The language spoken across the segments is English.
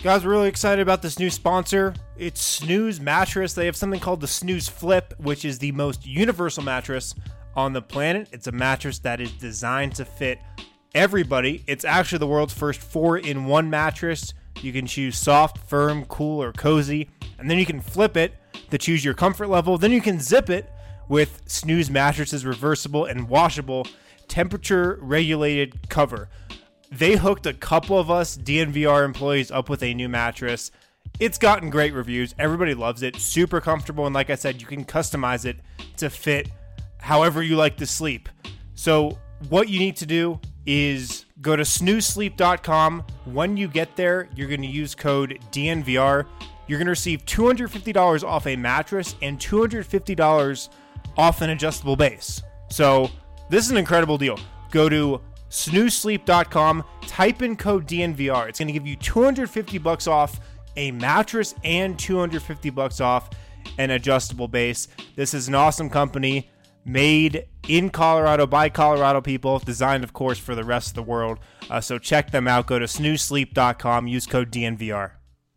Guys, we're really excited about this new sponsor. It's Snooze Mattress. They have something called the Snooze Flip, which is the most universal mattress on the planet. It's a mattress that is designed to fit everybody. It's actually the world's first 4-in-1 mattress. You can choose soft, firm, cool, or cozy, and then you can flip it to choose your comfort level. Then you can zip it with Snooze Mattress's reversible and washable temperature-regulated cover. They hooked a couple of us DNVR employees up with a new mattress. It's gotten great reviews. Everybody loves it. Super comfortable. And like I said, you can customize it to fit however you like to sleep. So what you need to do is go to snoozesleep.com. When you get there, you're going to use code DNVR. You're going to receive $250 off a mattress and $250 off an adjustable base. So this is an incredible deal. Go to snoozesleep.com, type in code DNVR. It's going to give you $250 off a mattress and $250 off an adjustable base. This is an awesome company made in Colorado by Colorado people, designed, of course, for the rest of the world. So check them out. Go to snoozesleep.com, use code DNVR.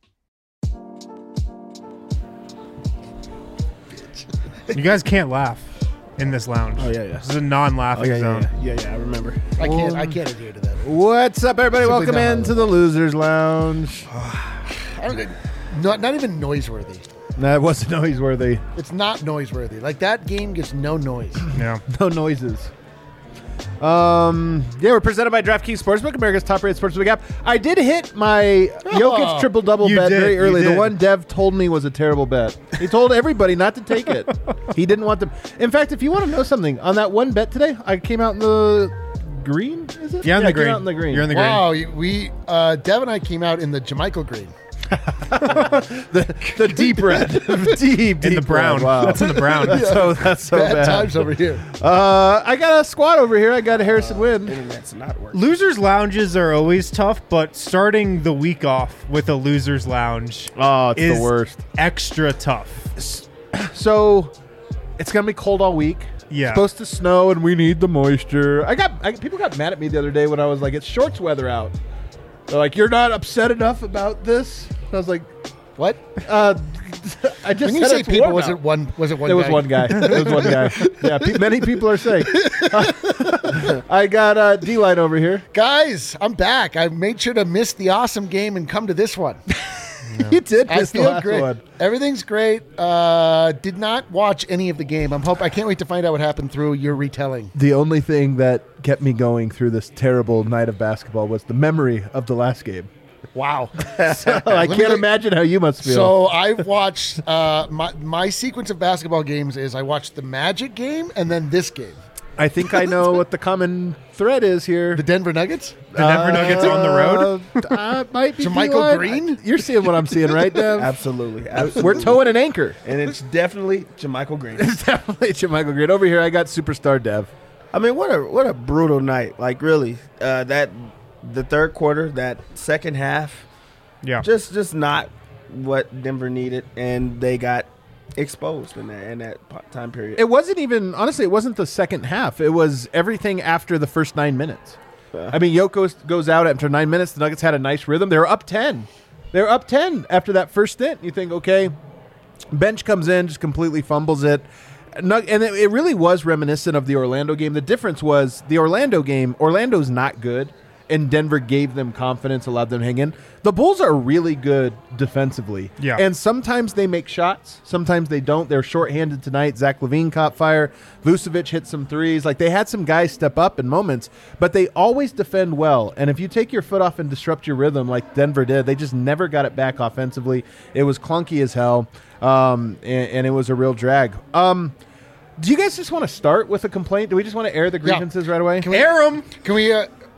You guys can't laugh in this lounge. Oh, yeah. This is a non-laughing zone. Yeah, I remember. I can't adhere to that. What's up, everybody? Simply Welcome not. into the Losers Lounge. Not even noiseworthy. That wasn't noiseworthy. It's not noiseworthy. Like, that game gets no noise. Yeah. No noises. We're presented by DraftKings Sportsbook, America's top-rated sportsbook app. I did hit my Jokic triple-double You bet did, very you early. The did. one Dev told me was a terrible bet. He told everybody not to take it. He didn't want them. In fact, if you want to know something, on that one bet today, I came out in the green, is it? Yeah, in I the green. came out in the green. You're in the green. Wow, we Dev and I came out in the Jamaica green. the deep red. deep In the brown. red. Wow. That's in the brown. That's so Bad bad. times over here. I got a squad over here. I got a Harrison Wynn. Internet's not working. Losers lounges are always tough, but starting the week off with a losers lounge Oh, it's is the worst. extra tough. So it's gonna be cold all week. Yeah. It's supposed to snow, and we need the moisture. People got mad at me the other day when I was like, "It's shorts weather out." They're like, "You're not upset enough about this?" I was like, What? I just When you said say it's people, warm was out. it one? Was it one? It was guy? one guy. It was one guy. Yeah, many people are saying. I got D-Line over here. Guys, I'm back. I made sure to miss the awesome game and come to this one. You did I miss the feel last great. one. Everything's great. Did not watch any of the game. I can't wait to find out what happened through your retelling. The only thing that kept me going through this terrible night of basketball was the memory of the last game. Wow. I can't imagine how you must feel. So I've watched my sequence of basketball games is I watched the Magic game and then this game. I think I know what the common thread is here. The Denver Nuggets? The Denver Nuggets on the road? Might be Jamaica D-Line. Green? You're seeing what I'm seeing, right, Dev? Absolutely. We're towing an anchor. And it's definitely Jamaica Green. It's definitely Jamaica Green. Over here, I got Superstar Dev. I mean, what a brutal night. Like, really, the third quarter, that second half, Yeah. just not what Denver needed, and they got exposed in that time period. It wasn't even, honestly, it wasn't the second half. It was everything after the first 9 minutes. I mean, Yoko goes out after 9 minutes. The Nuggets had a nice rhythm. They were up 10. They were up 10 after that first stint. You think, okay, bench comes in, just completely fumbles it. And it really was reminiscent of the Orlando game. The difference was the Orlando game, Orlando's not good, and Denver gave them confidence, allowed them to hang in. The Bulls are really good defensively. Yeah. And sometimes they make shots. Sometimes they don't. They're shorthanded tonight. Zach LaVine caught fire. Vucevic hit some threes. Like, they had some guys step up in moments, but they always defend well. And if you take your foot off and disrupt your rhythm like Denver did, they just never got it back offensively. It was clunky as hell, and it was a real drag. Do you guys just want to start with a complaint? Do we just want to air the grievances right away? Air 'em. Can we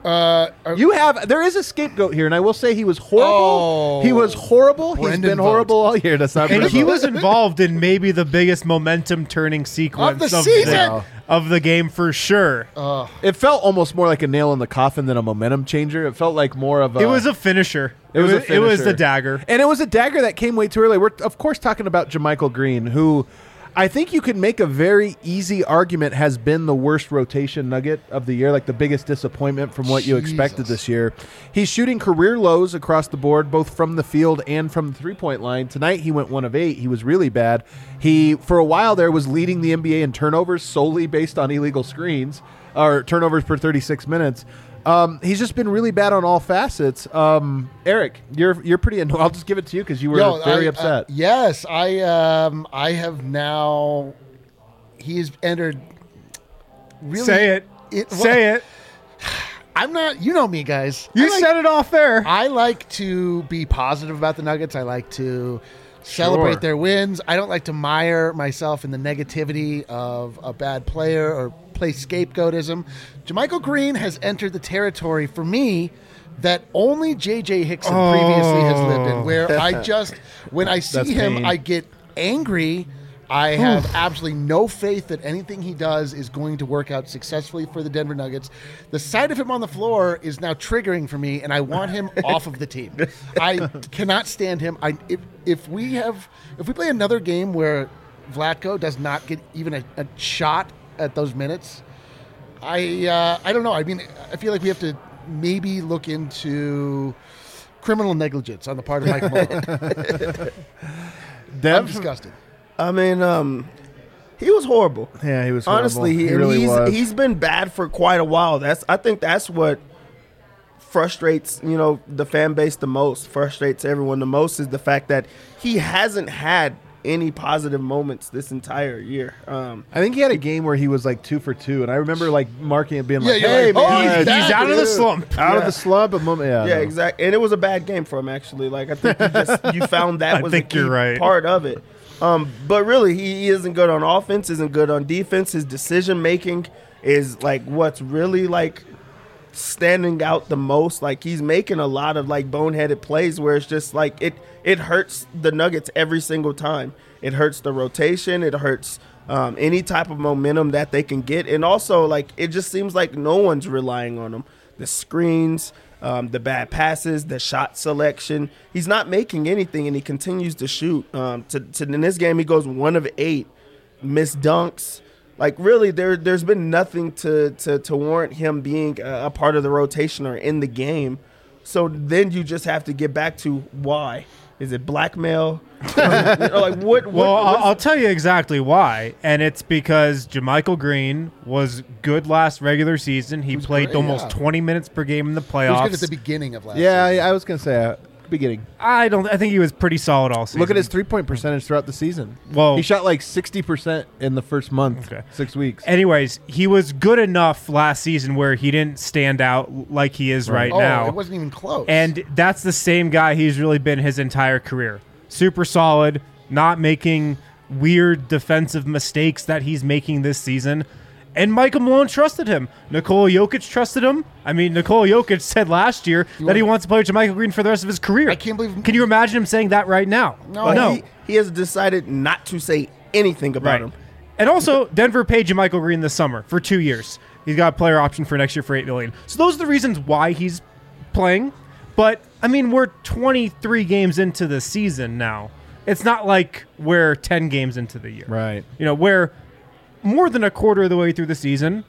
There is a scapegoat here, and I will say he was horrible. Oh. He was horrible. He's Brendan been horrible all year. That's not And Brendan he Vogt. was involved in maybe the biggest momentum-turning sequence Of the season. of the game for sure. It felt almost more like a nail in the coffin than a momentum changer. It felt like more of a... It was a finisher. It was a It was finisher. the dagger. And it was a dagger that came way too early. We're, of course, talking about Jamichael Green, who I think you could make a very easy argument has been the worst rotation Nugget of the year, like the biggest disappointment from what you expected this year. He's shooting career lows across the board, both from the field and from the three-point line. Tonight he went 1 of 8. He was really bad. He, for a while there, was leading the NBA in turnovers solely based on illegal screens, or turnovers per 36 minutes. He's just been really bad on all facets. Eric, you're pretty annoyed. I'll just give it to you because you were very upset. Yes, I have now. He has entered. Really, Say it. Say it. I'm not. You know me, guys. You said it off there. I like to be positive about the Nuggets. I like to celebrate their wins. I don't like to mire myself in the negativity of a bad player or play scapegoatism. JaMychal Green has entered the territory for me that only J.J. Hickson previously has lived in, where I just, when I see him, pain. I get angry. I have absolutely no faith that anything he does is going to work out successfully for the Denver Nuggets. The sight of him on the floor is now triggering for me, and I want him off of the team. I cannot stand him. If we play another game where Vlatko does not get even a shot at those minutes, I don't know. I mean, I feel like we have to maybe look into criminal negligence on the part of Mike Malone. I'm disgusted. I mean, he was horrible. Yeah, he was horrible. Honestly, he really was. He's been bad for quite a while. I think that's what frustrates, the fan base the most, frustrates everyone the most, is the fact that he hasn't had any positive moments this entire year. I think he had a game where he was like 2 for 2, and I remember like marking it, being like, you're "Hey, like, man, he's He's out of the slump. out of the slump." Yeah, exactly. And it was a bad game for him, actually. Like, I think you found that was a key you're right. part of it. But really, he isn't good on offense, isn't good on defense. His decision making is like what's really like standing out the most. Like, he's making a lot of like boneheaded plays where it's just like it hurts the Nuggets every single time. It hurts the rotation. It hurts any type of momentum that they can get. And also, like, it just seems like no one's relying on him. The screens, the bad passes, the shot selection. He's not making anything, and he continues to shoot. In this game, he goes 1 of 8, missed dunks. Like, really, there's been nothing to warrant him being a part of the rotation or in the game. So then you just have to get back to why. Is it blackmail? I'll tell you exactly why, and it's because JaMychal Green was good last regular season. He played great, almost 20 minutes per game in the He was playoffs. good at the beginning of last Yeah, season. I was gonna say beginning. I think he was pretty solid all season. Look at his 3-point percentage throughout the season. Well, He shot like 60% in the first month, Okay. 6 weeks. anyways, he was good enough last season where he didn't stand out like he is right now. It wasn't even close. And that's the same guy he's really been his entire career. Super solid, not making weird defensive mistakes that he's making this season. And Michael Malone trusted him. Nikola Jokic trusted him. I mean, Nikola Jokic said last year that he wants to play with JaMychal Green for the rest of his career. I can't believe- Can you imagine him saying that right now? No. He has decided not to say anything about him. And also, Denver paid JaMychal Green this summer for 2 years. He's got a player option for next year for $8 million. So those are the reasons why he's playing. But I mean, we're 23 games into the season now. It's not like we're 10 games into the year. Right. We're more than a quarter of the way through the season.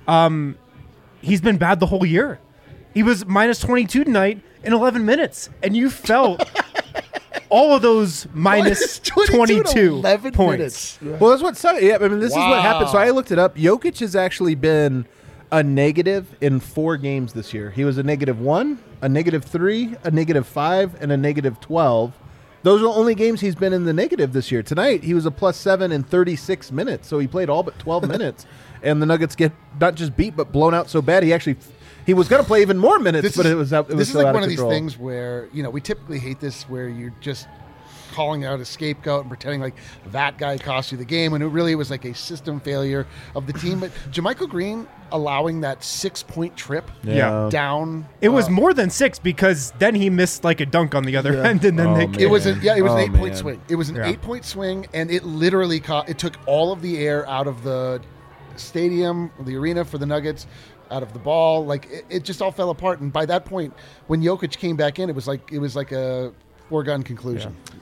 He's been bad the whole year. He was minus 22 tonight in 11 minutes, and you felt all of those minus 22 11 points. minutes. Well, that's what sucks. Yeah, I mean, this is what happened. So Wow. I looked it up. Jokic has actually been a negative in 4 games this year. He was a -1, a -3, a -5, and a -12. Those are the only games he's been in the negative this year. Tonight, he was a +7 in 36 minutes, so he played all but 12 minutes. And the Nuggets get not just beat, but blown out so bad he was going to play even more minutes, but it was out. It was This is so like out one of control. these things where, we typically hate this, where you're just calling out a scapegoat and pretending like that guy cost you the game, when it really was like a system failure of the team. But JaMychal Green allowing that 6-point trip Yeah. down. It was more than 6 because then he missed like a dunk on the other end, and then Oh, they man. It was an 8-point man. swing. It was an Yeah. 8-point swing, and it literally it took all of the air out of the stadium, the arena for the Nuggets, out of the ball. Like it just all fell apart. And by that point, when Jokic came back in, it was like a foregone conclusion. Yeah.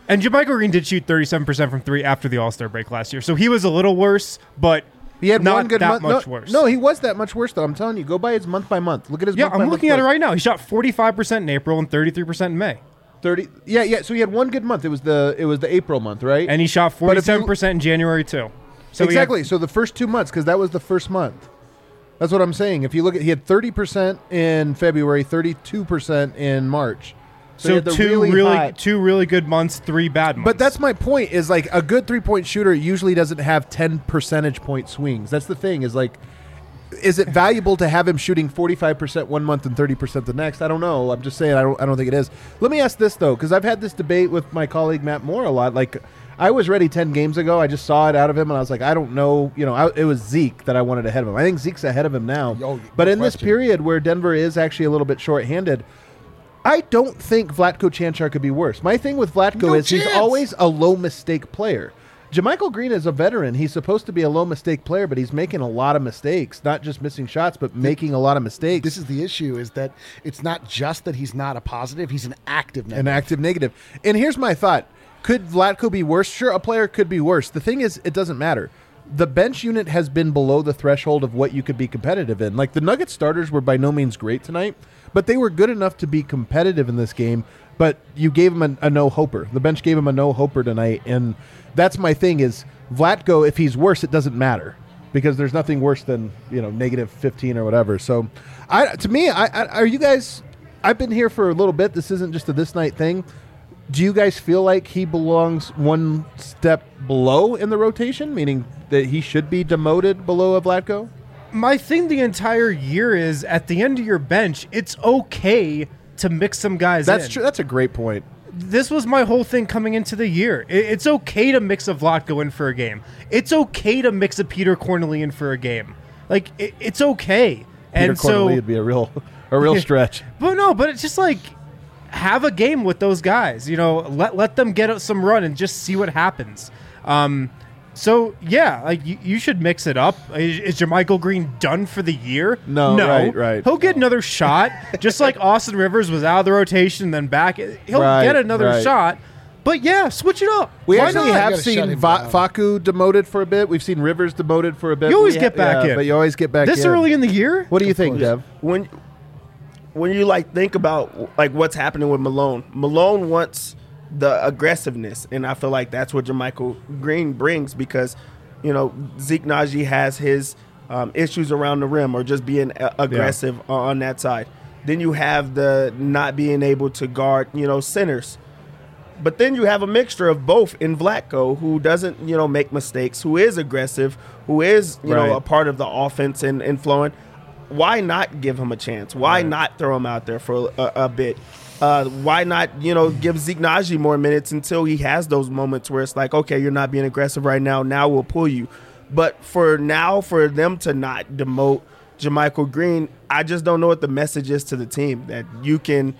And JaMychal Green did shoot 37% from three after the All-Star break last year, so he was a little worse, but He had not one good that month. much worse. No, he was that much worse though. I'm telling you, go by his month by month. Look at his. Yeah, month by I'm month looking at it play. right now. He shot 45% in April and 33% in May. 30. Yeah. So he had one good month. It was the April month, right? And he shot But if you- 47% in January too. So he had- exactly. So the first 2 months, because that was the first month. That's what I'm saying. If you look at, he had 30% in February, 32% in March. he So had the two hot- really good months, 3 bad months. But that's my point. Is like a good 3-point shooter usually doesn't have 10 percentage point swings. That's the thing. Is like, is it valuable to have him shooting 45% one month and 30% the next? I don't know. I'm just saying. I don't think it is. Let me ask this though, because I've had this debate with my colleague Matt Moore a lot. Like, I was ready 10 games ago. I just saw it out of him, and I was like, I don't know. You know, it was Zeke that I wanted ahead of him. I think Zeke's ahead of him now. Oh, but no in this question. period where Denver is actually a little bit shorthanded, I don't think Vlatko Canchar could be worse. My thing with Vlatko No is he's chance. always a low mistake player. JaMychal Green is a veteran. He's supposed to be a low mistake player, but he's making a lot of mistakes. Not just missing shots, but making a lot of mistakes. This is the issue: is that it's not just that he's not a positive; he's an active negative. An active negative. And here's my thought. Could Vlatko be worse? Sure, a player could be worse. The thing is, it doesn't matter. The bench unit has been below the threshold of what you could be competitive in. Like, the Nuggets starters were by no means great tonight, but they were good enough to be competitive in this game. But you gave him a no-hoper. The bench gave him a no-hoper tonight, and that's my thing is Vlatko, if he's worse, it doesn't matter because there's nothing worse than, negative 15 or whatever. So, are you guys – I've been here for a little bit. This isn't just a this night thing. Do you guys feel like he belongs one step below in the rotation, meaning that he should be demoted below a Vlatko? My thing the entire year is at the end of your bench, it's okay to mix some guys in. That's true. That's a great point. This was my whole thing coming into the year. It's okay to mix a Vlatko in for a game. It's okay to mix a Peter Cornely in for a game. Like, it's okay. Peter Cornely would be a real stretch. But it's just like, have a game with those guys. Let them get some run and just see what happens. So yeah, like you should mix it up. Is JaMychal Green done for the year? No. Right. He'll get another shot, just like Austin Rivers was out of the rotation and then back. He'll get another shot. But yeah, switch it up. We Why actually not? have You gotta shut seen him down. Facu demoted for a bit. We've seen Rivers demoted for a bit. You always get back in. But you always get back in. This early in the year. What do you think, Dev? When you think about what's happening with Malone wants the aggressiveness, and I feel like that's what JaMychal Green brings because Zeke Naji has his issues around the rim or just being aggressive on that side. Then you have the not being able to guard centers. But then you have a mixture of both in Vlatko, who doesn't, make mistakes, who is aggressive, who is, a part of the offense and flowing. Why not give him a chance? Why not throw him out there for a bit? Why not, give Zeke Naji more minutes until he has those moments where it's like, okay, you're not being aggressive right now. Now we'll pull you. But for them to not demote JaMychal Green, I just don't know what the message is to the team that you can,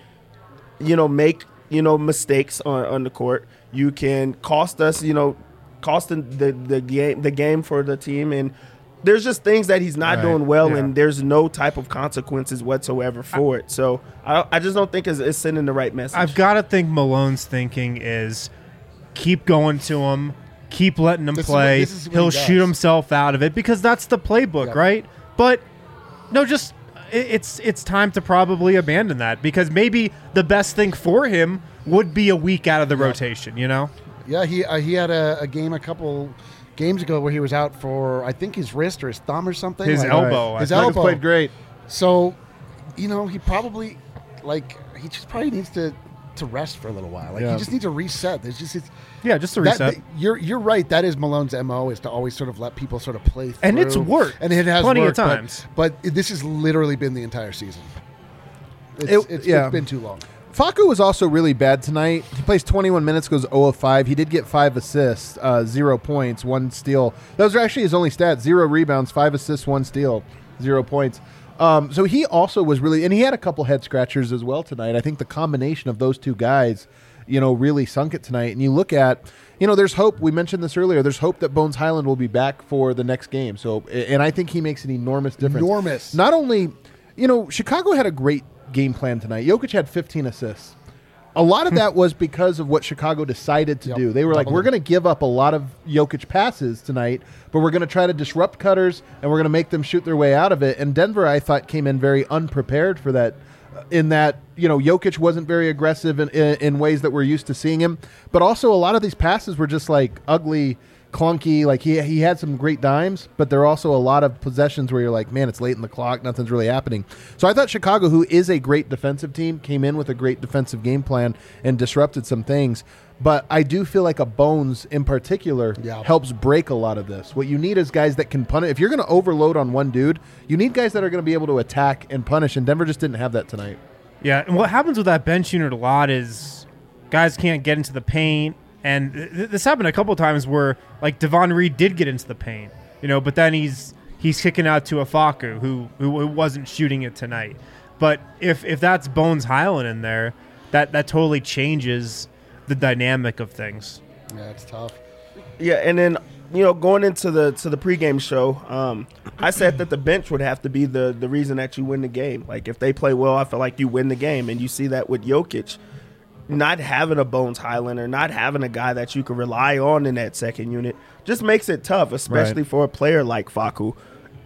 make mistakes on the court. You can cost us, cost the game for the team, and there's just things that he's not doing well, and there's no type of consequences whatsoever for it. So I just don't think it's sending the right message. I've got to think Malone's thinking is keep going to him, keep letting him play. This is what He'll he does. shoot himself out of it because that's the playbook, right? But no, just it's time to probably abandon that because maybe the best thing for him would be a week out of the rotation, Yeah, he had a game a couple games ago where he was out for I think his wrist or his thumb or something. His elbow. His Nuggets elbow played great. So, he probably he just probably needs to rest for a little while. He just needs to reset. There's just just a reset. You're right. That is Malone's MO is to always sort of let people sort of play through. And it's worked. And it has plenty worked, of times. But this has literally been the entire season. It's been too long. Facu was also really bad tonight. He plays 21 minutes, goes 0 of 5. He did get 5 assists, 0 points, 1 steal. Those are actually his only stats: 0 rebounds, 5 assists, 1 steal, 0 points. So he also was really, and he had a couple head scratchers as well tonight. I think the combination of those two guys, really sunk it tonight. And you look at, there's hope. We mentioned this earlier. There's hope that Bones Highland will be back for the next game. So, and I think he makes an enormous difference. Not only, Chicago had a great game plan tonight. Jokic had 15 assists. a lot of that was because of what Chicago decided to do. They were like, we're going to give up a lot of Jokic passes tonight, but we're going to try to disrupt cutters, and we're going to make them shoot their way out of it. And Denver, I thought, came in very unprepared for that, in that, Jokic wasn't very aggressive in ways that we're used to seeing him. But also a lot of these passes were just like ugly, clunky. Like he had some great dimes, but there are also a lot of possessions where you're like, man, it's late in the clock, nothing's really happening. So I thought Chicago, who is a great defensive team, came in with a great defensive game plan and disrupted some things. But I do feel like a Bones in particular helps break a lot of this. What you need is guys that can punish. If you're going to overload on one dude, you need guys that are going to be able to attack and punish, and Denver just didn't have that tonight. Yeah, and what happens with that bench unit a lot is guys can't get into the paint. And this happened a couple of times where, like, Devon Reed did get into the paint, but then he's kicking out to Afaku, who wasn't shooting it tonight. But if that's Bones Highland in there, that totally changes the dynamic of things. Yeah, it's tough. Yeah, and then going into the pregame show, I said that the bench would have to be the reason that you win the game. Like, if they play well, I feel like you win the game, and you see that with Jokic. Not having a Bones Highlander, not having a guy that you can rely on in that second unit just makes it tough, especially for a player like Facu.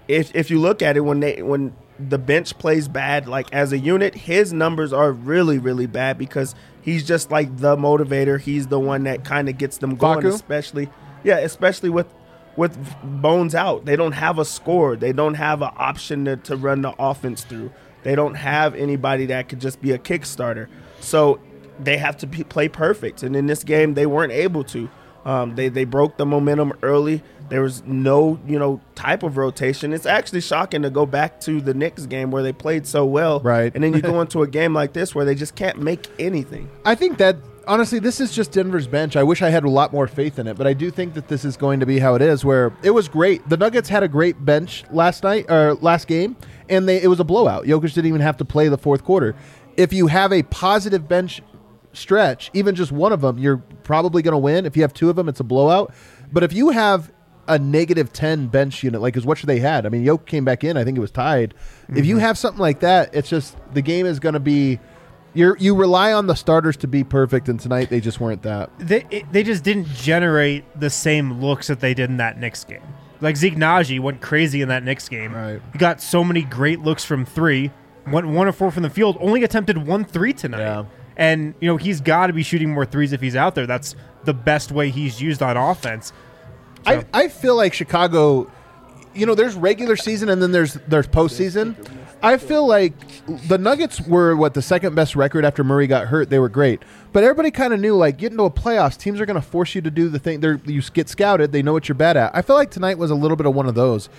If you look at it, when the bench plays bad, like as a unit, his numbers are really, really bad because he's just like the motivator. He's the one that kind of gets them going, Facu? especially with Bones out. They don't have a score. They don't have an option to run the offense through. They don't have anybody that could just be a kickstarter. So they have to play perfect, and in this game, they weren't able to. They broke the momentum early. There was no, type of rotation. It's actually shocking to go back to the Knicks game where they played so well, right? And then you go into a game like this where they just can't make anything. I think that honestly, this is just Denver's bench. I wish I had a lot more faith in it, but I do think that this is going to be how it is. Where it was great. The Nuggets had a great bench last game, and it was a blowout. Jokic didn't even have to play the fourth quarter. If you have a positive bench stretch, even just one of them, you're probably going to win. If you have two of them, it's a blowout. But if you have a -10 bench unit, like is what they had, I mean, Jokic came back in, I think it was tied. If you have something like that, it's just the game is going to be, you rely on the starters to be perfect, and tonight they just weren't that. They just didn't generate the same looks that they did in that Knicks game. Like Zeke Naji went crazy in that Knicks game. Right. He got so many great looks from three, went 1 of 4 from the field, only attempted 1 3 tonight. Yeah. And, he's got to be shooting more threes if he's out there. That's the best way he's used on offense. So. I feel like Chicago, there's regular season and then there's postseason. I feel like the Nuggets were, the second best record after Murray got hurt. They were great. But everybody kind of knew, like, getting to a playoffs, teams are going to force you to do the thing. You get scouted. They know what you're bad at. I feel like tonight was a little bit of one of those.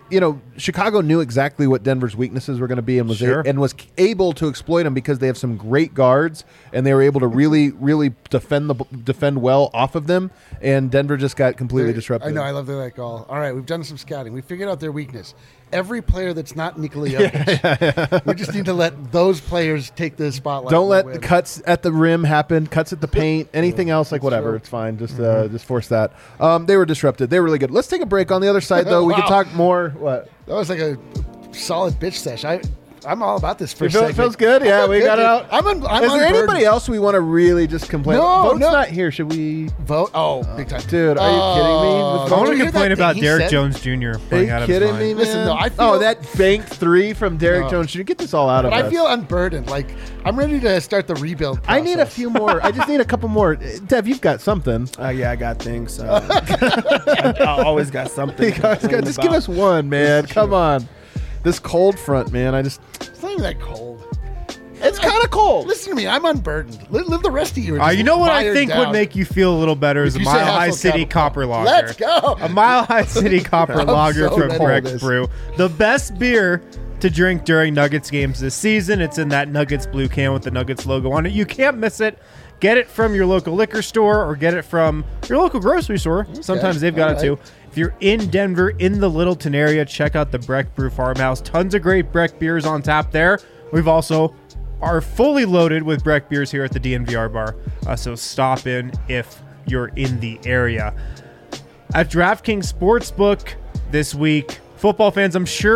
Chicago knew exactly what Denver's weaknesses were going to be and was able to exploit them because they have some great guards and they were able to really, really defend well off of them. And Denver just got completely disrupted. I know. I love that call. All right, we've done some scouting. We figured out their weakness. Every player that's not Nikola Jokic, we just need to let those players take the spotlight. Don't let the cuts at the rim happen, cuts at the paint, anything else, like whatever. True. It's fine. Just force that. They were disrupted. They were really good. Let's take a break. On the other side, though, we can talk more. What? That was like a solid bitch sesh. I'm all about this first segment. It feels good. Yeah, we got it out. Is there anybody else we want to really just complain about? Vote's not here. Should we vote? Oh, big time. Dude, are you kidding me? I want to complain about Derek Jones Jr. playing out of his mind. Are you kidding me, man? Listen, no, I feel, that banked 3 from Derek Jones Jr. Get this all out of us. I feel unburdened. Like, I'm ready to start the rebuild process. I need a few more. I just need a couple more. Dev, you've got something. Yeah, I got things. I always got something. Just give us one, man. Come on. This cold front, man. It's not even that cold. It's kind of cold. Listen to me. I'm unburdened. Live the rest of you. You know what I think would make you feel a little better is a Mile High City Copper Lager. Let's go. A Mile High City Copper Lager from Breck's Brew. The best beer to drink during Nuggets games this season. It's in that Nuggets blue can with the Nuggets logo on it. You can't miss it. Get it from your local liquor store or get it from your local grocery store. Okay. Sometimes they've got it too. If you're in Denver, in the Littleton area, check out the Breck Brew Farmhouse. Tons of great Breck beers on tap there. We've also are fully loaded with Breck beers here at the DNVR bar. So stop in if you're in the area. At DraftKings Sportsbook this week, football fans, I'm sure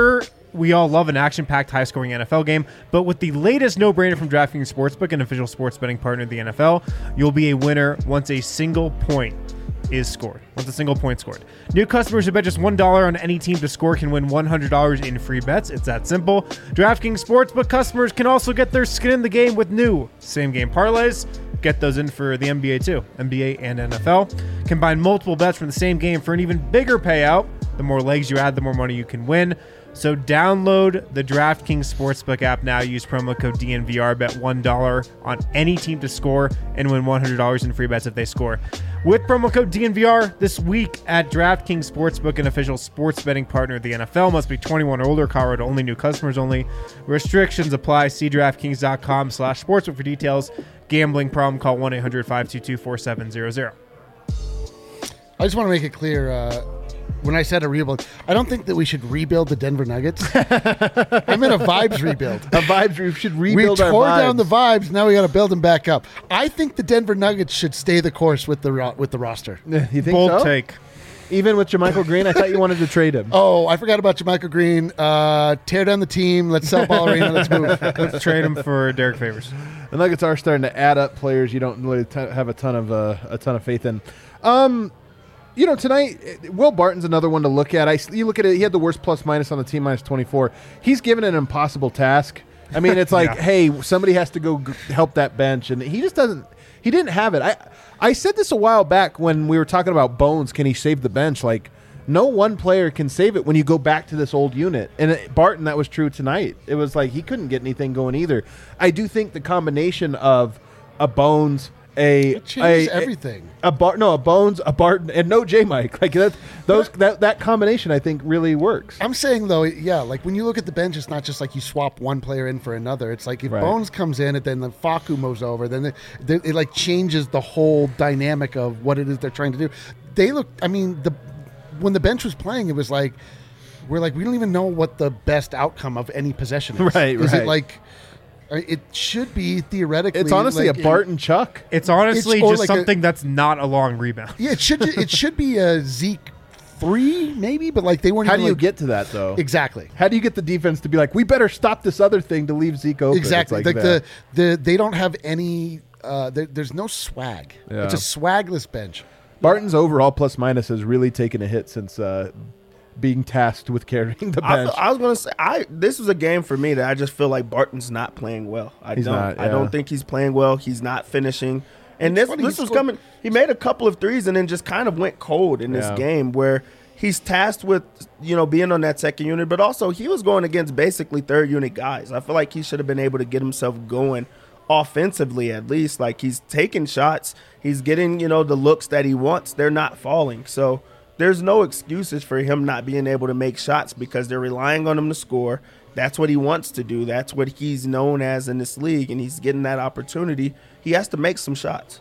we all love an action-packed, high-scoring NFL game, but with the latest no-brainer from DraftKings Sportsbook, an official sports betting partner of the NFL, you'll be a winner once a single point is scored. Once a single point scored. New customers who bet just $1 on any team to score can win $100 in free bets. It's that simple. DraftKings Sportsbook customers can also get their skin in the game with new same-game parlays. Get those in for the NBA too, NBA and NFL. Combine multiple bets from the same game for an even bigger payout. The more legs you add, the more money you can win. So download the DraftKings Sportsbook app now. Use promo code DNVR. Bet $1 on any team to score and win $100 in free bets if they score. With promo code DNVR this week at DraftKings Sportsbook, an official sports betting partner of the NFL. Must be 21 or older. Colorado only. New customers only. Restrictions apply. See DraftKings.com/sportsbook for details. Gambling problem? Call 1-800-522-4700. I just want to make it clear, when I said a rebuild, I don't think that we should rebuild the Denver Nuggets. I'm in a vibes rebuild. We should rebuild our vibes. We tore down the vibes. Now we got to build them back up. I think the Denver Nuggets should stay the course with the roster. You think Bold so? take. Even with JaMychal Green, I thought you wanted to trade him. Oh, I forgot about JaMychal Green. Tear down the team. Let's sell Ballerina. Let's move. Let's trade him for Derek Favors. The Nuggets are starting to add up players you don't really have a ton of faith in. Tonight, Will Barton's another one to look at. You look at it, he had the worst plus-minus on the team, minus 24. He's given an impossible task. I mean, it's like, hey, somebody has to go help that bench, and he just doesn't. He didn't have it. I said this a while back when we were talking about Bones. Can he save the bench? Like, no one player can save it when you go back to this old unit. And Barton, that was true tonight. It was like he couldn't get anything going either. I do think the combination of a Bones, it changes everything. A Bones, a Barton, and no J-Mike. Like that combination, I think, really works. I'm saying though, yeah, like when you look at the bench, it's not just like you swap one player in for another. It's like if Bones comes in, and then the Facu moves over, then it like changes the whole dynamic of what it is they're trying to do. They look. I mean, when the bench was playing, it was like we don't even know what the best outcome of any possession is. Is it like? It should be theoretically. It's honestly like a Barton Chuck. It's honestly just like something that's not a long rebound. Yeah, it should be a Zeke 3 maybe, but like they weren't. How do you get to that though? Exactly. How do you get the defense to be like, we better stop this other thing to leave Zeke open? Exactly. Like they don't have any. There's no swag. Yeah. It's a swagless bench. Barton's overall plus minus has really taken a hit since being tasked with carrying the bench. I was going to say, this was a game for me that I just feel like Barton's not playing well. I don't think he's playing well. He's not finishing. And this was coming. He made a couple of threes and then just kind of went cold in this game where he's tasked with, being on that second unit, but also he was going against basically third unit guys. I feel like he should have been able to get himself going offensively at least. Like he's taking shots. He's getting, the looks that he wants. They're not falling. So there's no excuses for him not being able to make shots because they're relying on him to score. That's what he wants to do. That's what he's known as in this league, and he's getting that opportunity. He has to make some shots.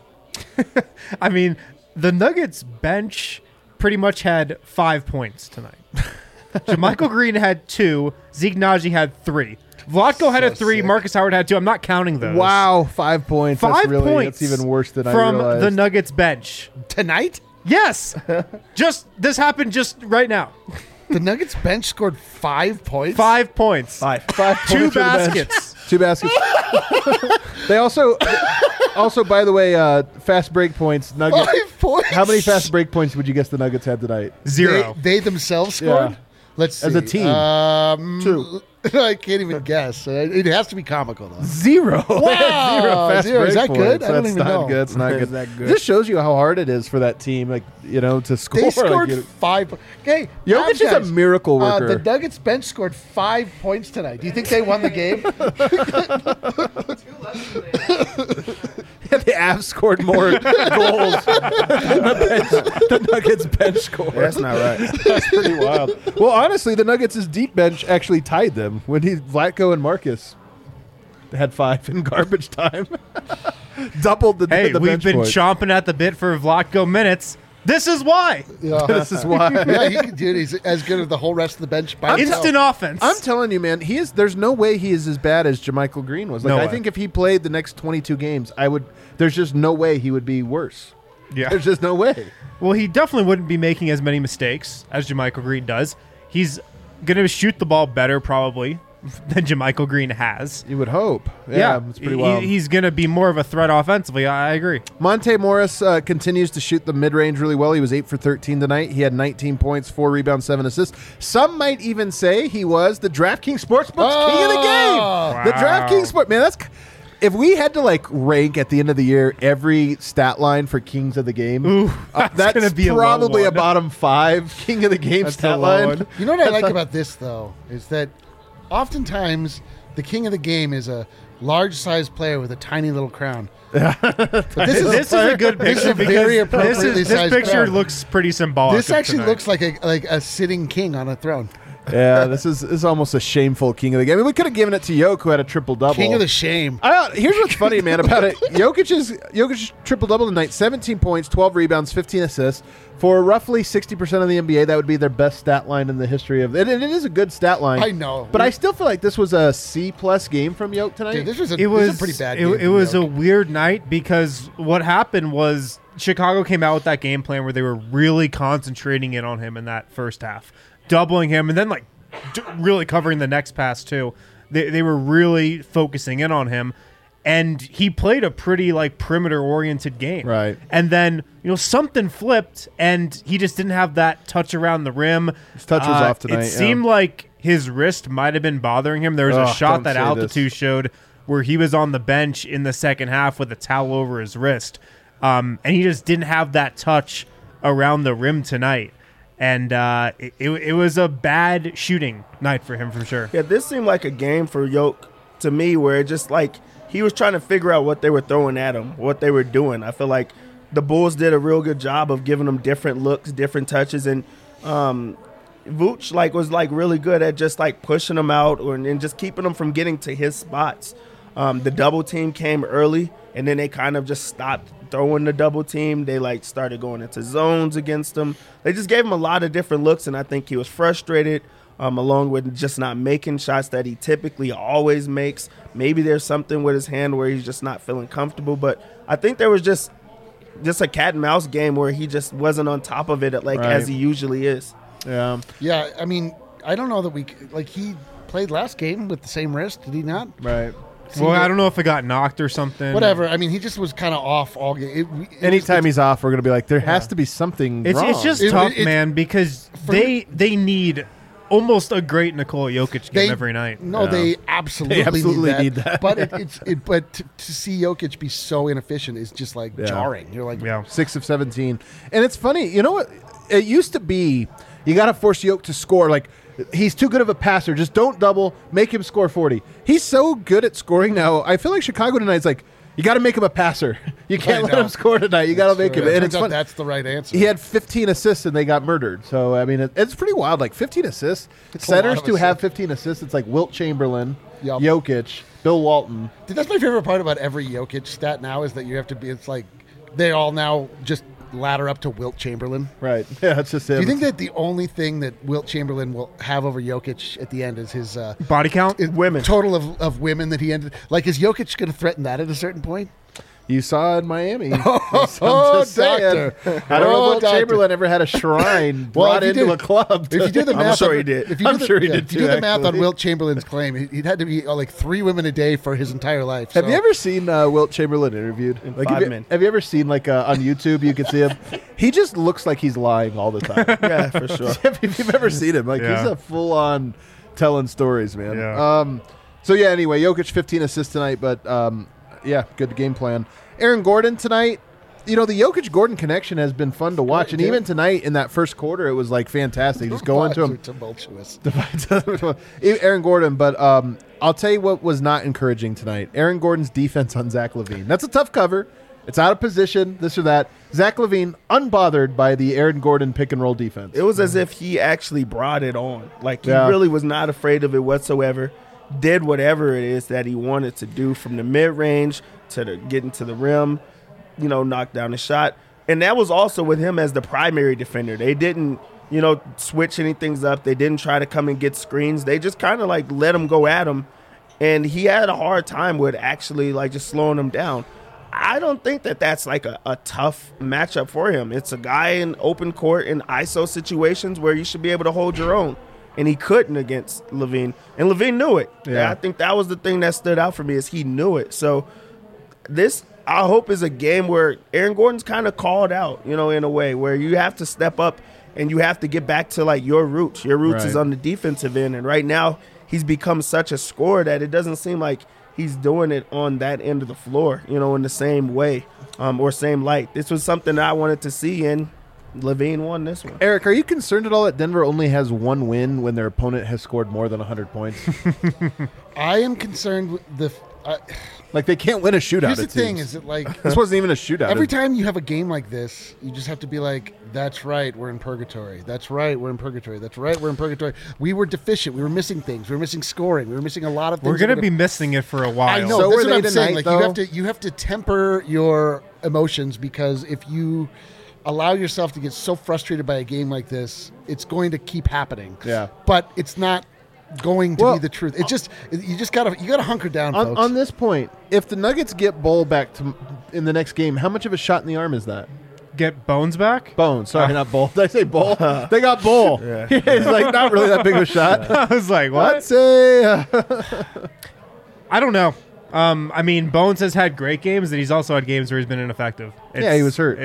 I mean, the Nuggets bench pretty much had 5 points tonight. JaMychal Green had 2. Zeke Naji had 3. Vlatko had a 3. Sick. Marcus Howard had 2. I'm not counting those. Wow, 5 points. 5 points. That's even worse than I realized. From the Nuggets bench. Tonight? Yes. This happened just right now. The Nuggets bench scored 5 points? 5 points. 5 2 baskets. 2 baskets. They also, by the way, fast break points. Nuggets. 5 points? How many fast break points would you guess the Nuggets had tonight? 0. They themselves scored? Yeah. Let's see. As a team. 2. I can't even guess. It has to be comical, though. 0. Wow. 0 fast break Is that points. good? I don't even know. That's not good. Is that good? This shows you how hard it is for that team, to score. They scored 5. Okay, Jokic is a miracle worker. The Nuggets bench scored 5 points tonight. Do you think they won the game? The Avs scored more goals than the Nuggets bench scored. That's not right. That's pretty wild. Well, honestly, the Nuggets' deep bench actually tied them when Vlatko and Marcus had 5 in garbage time. Doubled the bench we've been points. chomping at the bit for Vlatko minutes. This is why. Yeah. This is why. Yeah, he's as good as the whole rest of the bench by himself. Instant offense. I'm telling you, man, there's no way he is as bad as JaMychal Green was. I think if he played the next 22 games, there's just no way he would be worse. Yeah. There's just no way. Well, he definitely wouldn't be making as many mistakes as JaMychal Green does. He's gonna shoot the ball better probably than JaMychal Green has. You would hope. Yeah, it's pretty wild. He's gonna be more of a threat offensively. I agree. Monte Morris continues to shoot the mid-range really well. He was 8 for 13 tonight. He had 19 points, 4 rebounds, 7 assists. Some might even say he was the DraftKings Sportsbook's king of the game. Wow. The DraftKings Sport, man, that's if we had to like rank at the end of the year every stat line for kings of the game, that's gonna be a low probably a one. bottom 5 king of the game That's stat a low line. one. You know what I like about this, though, is that oftentimes the king of the game is a large-sized player with a tiny little crown. But This is a good This is picture a very because appropriately this sized picture crown. looks pretty symbolic. This of actually tonight. looks like a sitting king on a throne. Yeah, this is almost a shameful king of the game. I mean, we could have given it to Jokic, who had a triple-double. King of the shame. Here's what's funny, man, about it. Jokic triple-double tonight, 17 points, 12 rebounds, 15 assists. For roughly 60% of the NBA, that would be their best stat line in the history of it. And it is a good stat line. I know. But I still feel like this was a C-plus game from Jokic tonight. Dude, this was It was a pretty bad game. It was a weird night because what happened was Chicago came out with that game plan where they were really concentrating in on him in that first half, doubling him, and then like really covering the next pass too. They were really focusing in on him, and he played a pretty like perimeter oriented game. Right. And then something flipped, and he just didn't have that touch around the rim. His touch was off tonight, It yeah. seemed like his wrist might have been bothering him. There was a Ugh, shot don't that say Altitude showed where he was on the bench in the second half with a towel over his wrist. And he just didn't have that touch around the rim tonight. And it was a bad shooting night for him for sure. Yeah, this seemed like a game for Yoke to me where it just like he was trying to figure out what they were throwing at him, what they were doing. I feel like the Bulls did a real good job of giving him different looks, different touches, and Vooch was really good at just like pushing him out and just keeping him from getting to his spots. The double team came early, and then they kind of just stopped throwing the double team. They like started going into zones against him. They just gave him a lot of different looks, and I think he was frustrated, along with just not making shots that he typically always makes. Maybe there's something with his hand where he's just not feeling comfortable, but I think there was just a cat and mouse game where he just wasn't on top of it as he usually is. Yeah. Yeah, I mean, I don't know that he played last game with the same wrist, did he not? Right. Well, I don't know if it got knocked or something. Whatever. I mean, he just was kind of off all game. Anytime he's off, we're going to be like, there has to be something wrong. It's just tough, man, because they need almost a great Nikola Jokic game every night. No, they absolutely need that. But to see Jokic be so inefficient is just like jarring. You're like, 6 of 17. And it's funny, you know what? It used to be you got to force Jokic to score. Like, he's too good of a passer. Just don't double. Make him score 40. He's so good at scoring now. I feel like Chicago tonight is like, you got to make him a passer. You can't let him score tonight. You got to make him. And And it's fun. that's the right answer. He had 15 assists and they got murdered. So, I mean, it's pretty wild. Like, 15 assists. It's a lot Centers of to have assists. 15 assists. It's like Wilt Chamberlain, Yup. Jokic, Bill Walton. Dude, that's my favorite part about every Jokic stat now is that you have to be. It's like they all now just ladder up to Wilt Chamberlain. Right. Yeah, that's just him. Do you think that the only thing that Wilt Chamberlain will have over Jokic at the end is his Body count? Women. total of women that he ended? Like, is Jokic going to threaten that at a certain point? You saw it in Miami. Oh, doctor. I don't know Oh, if Wilt doctor. Chamberlain ever had a shrine Well, brought if you into did- a club. If you do the I'm math, sure on, he did. If you I'm do the, sure he yeah, did if you do too, the math on actually. Wilt Chamberlain's claim, he'd had to be like 3 women a day for his entire life. Have so- you ever seen Wilt Chamberlain interviewed? Like, 5 have you, men. have you ever seen on YouTube? You can see him. He just looks like he's lying all the time. Yeah, for sure. If you've ever seen him, like Yeah. he's a full on telling stories, man. Yeah. So yeah. Anyway, Jokic 15 assists tonight, but yeah, good game plan. Aaron Gordon tonight. The Jokic Gordon connection has been fun to watch, and yeah. even tonight in that first quarter, it was like fantastic. Just going to Vibes him. are tumultuous. Aaron Gordon, but I'll tell you what was not encouraging tonight. Aaron Gordon's defense on Zach LaVine. That's a tough cover. It's out of position, this or that. Zach LaVine, unbothered by the Aaron Gordon pick and roll defense. It was as if he actually brought it on. Like, he Yeah. really was not afraid of it whatsoever. Did whatever it is that he wanted to do from the mid-range to getting to the rim, knock down the shot. And that was also with him as the primary defender. They didn't, switch anything up. They didn't try to come and get screens. They just kind of, let him go at him. And he had a hard time with actually, just slowing him down. I don't think that that's a tough matchup for him. It's a guy in open court in ISO situations where you should be able to hold your own. and he couldn't against Levine. And Levine knew it. Yeah. I think that was the thing that stood out for me is he knew it. So this, I hope, is a game where Aaron Gordon's kind of called out, in a way where you have to step up and you have to get back to like your roots. Your roots is Right. on the defensive end, and right now he's become such a scorer that it doesn't seem like he's doing it on that end of the floor, in the same way or same light. This was something that I wanted to see, and Levine won this one. Eric, are you concerned at all that Denver only has one win when their opponent has scored more than 100 points? I am concerned with the. Like they can't win a shootout. Here's the it thing: seems. is it like This wasn't even a shootout. every time you have a game like this, you just have to be like, "That's right, we're in purgatory. That's right, we're in purgatory. That's right, we're in purgatory." We were deficient. We were missing things. We were missing scoring. We were missing a lot of things. We're going to that be missing it for a while. I know. So that's were what they I'm saying. tonight, Like you have to temper your emotions, because if you allow yourself to get so frustrated by a game like this, it's going to keep happening. Yeah. But it's not going to Well, be the truth. You gotta hunker down, on, folks. on this point, if the Nuggets get Bull back in the next game, how much of a shot in the arm is that? Get Bones back? Bone. Sorry, not Bull. Did I say Bull? They got Bull. It's like not really that big of a shot. I was like, what? Let's say I don't know. I mean, Bones has had great games, and he's also had games where he's been ineffective. Yeah, he was hurt.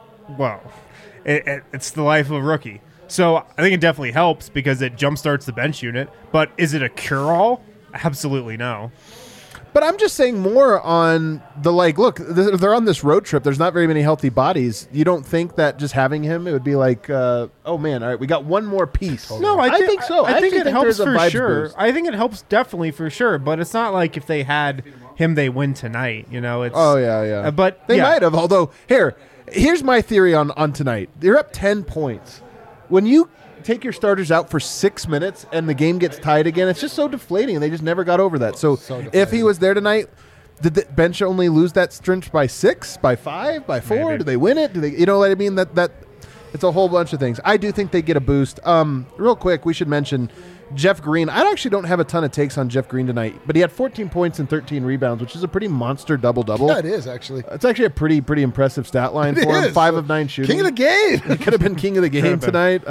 It's the life of a rookie. So I think it definitely helps because it jumpstarts the bench unit. But is it a cure-all? Absolutely no. But I'm just saying more on the look, they're on this road trip. There's not very many healthy bodies. You don't think that just having him, it would be like, oh man, all right, we got one more piece. No, I think so. I think actually it helps there's a for vibes sure. boost. I think it helps definitely for sure. But it's not like if they had him, they win tonight. It's Oh yeah. but they yeah. might have. Although here's my theory on tonight. They're up 10 points. When you take your starters out for 6 minutes and the game gets tied again, it's just so deflating, and they just never got over that. So deflating. if he was there tonight, did the bench only lose that stretch by 6, by 5, by 4? Maybe. Do they win it? Do they? You know what I mean? That it's a whole bunch of things. I do think they get a boost. Real quick, we should mention Jeff Green. I actually don't have a ton of takes on Jeff Green tonight, but he had 14 points and 13 rebounds, which is a pretty monster double-double. Yeah, it is actually. It's actually a pretty impressive stat line It for him. is. 5 of 9 shooting. King of the game. He could have been king of the game have been. tonight.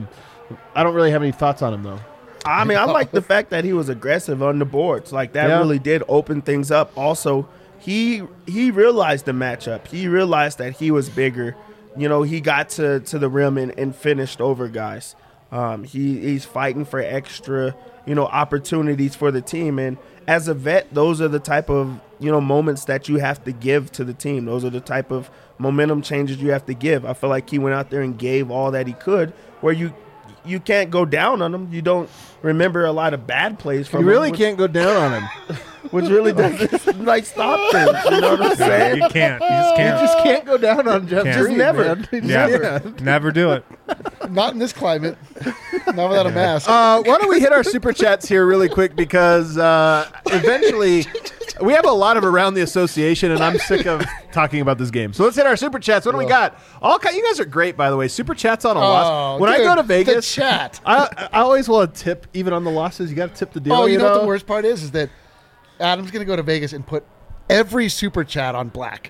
I don't really have any thoughts on him though. I mean, I like the fact that he was aggressive on the boards. Like that Yeah. really did open things up. Also, he realized the matchup. He realized that he was bigger. He got to the rim and finished over guys. He's fighting for extra, opportunities for the team. And as a vet, those are the type of, moments that you have to give to the team. Those are the type of momentum changes you have to give. I feel like he went out there and gave all that he could, where you can't go down on him. You don't remember a lot of bad plays from You him. really which- can't go down on him. Which really doesn't like stop things. You know what I'm saying? You can't. You just You can't. just can't go down on Jeff Can't. Green, Never. man. You just Never. can't. Never do it. Not in this climate. Not without a mask. Why don't we hit our super chats here really quick, because eventually we have a lot of around the association, and I'm sick of talking about this game. So let's hit our super chats. What do we got? You guys are great, by the way. Super chats on a loss. When I dude, go to the Vegas, chat. I always want to tip, even on the losses. You got to tip the deal. Oh, you know what the worst part is that Adam's going to go to Vegas and put every super chat on black.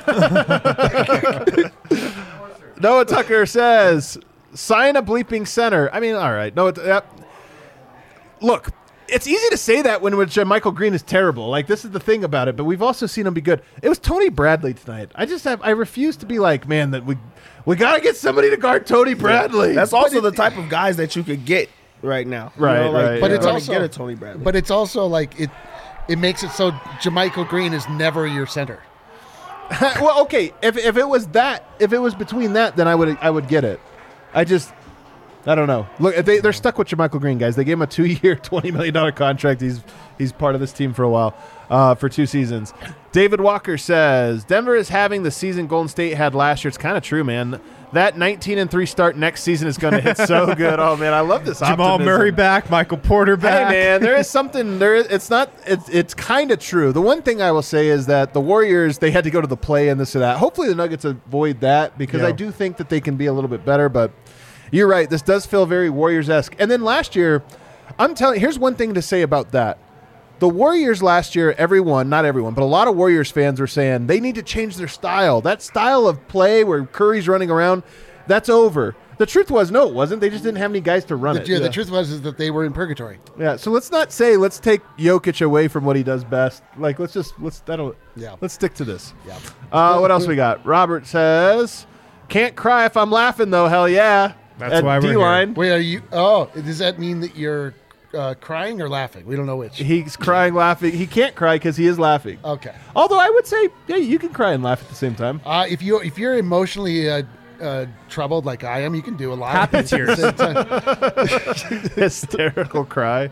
Noah Tucker says, sign a bleeping center. I mean, all right. Look, it's easy to say that when Michael Green is terrible. Like, this is the thing about it, but we've also seen him be good. It was Tony Bradley tonight. I refuse to be like, man, that we got to get somebody to guard Tony Bradley. That's also the type of guys that you could get right now. Right, right, But yeah. it's Gonna also get a Tony Bradley. But it's also like it makes it so JaMychal Green is never your center. Well, okay. If it was between that, then I would get it. I don't know. Look, they're stuck with JaMychal Green, guys. They gave him a 2-year, $20 million contract. He's part of this team for a while, for 2 seasons. David Walker says, Denver is having the season Golden State had last year. It's kind of true, man. That 19-3 start next season is going to hit so good. Oh, man, I love this Jamal optimism. Murray back, Michael Porter back. Hey, man, there is something there. It's kind of true. The one thing I will say is that the Warriors, they had to go to the play and this or that. Hopefully the Nuggets avoid that, because Yeah. I do think that they can be a little bit better, but you're right. This does feel very Warriors-esque. And then last year, here's one thing to say about that. The Warriors last year, not everyone, but a lot of Warriors fans were saying they need to change their style. That style of play where Curry's running around, that's over. The truth was, no, it wasn't. They just didn't have any guys to run it. The truth was is that they were in purgatory. Yeah, so let's not say let's take Jokic away from what he does best. Like let's stick to this. Yeah. What else we got? Robert says, "Can't cry if I'm laughing though. Hell yeah." That's At why we're D-line. Wait, are you? Oh, does that mean that you're crying or laughing? We don't know which. He's crying, laughing. He can't cry because he is laughing. Okay. Although I would say, yeah, you can cry and laugh at the same time. If you're emotionally troubled like I am, you can do a lot. Happy of things at the same time. Hysterical cry.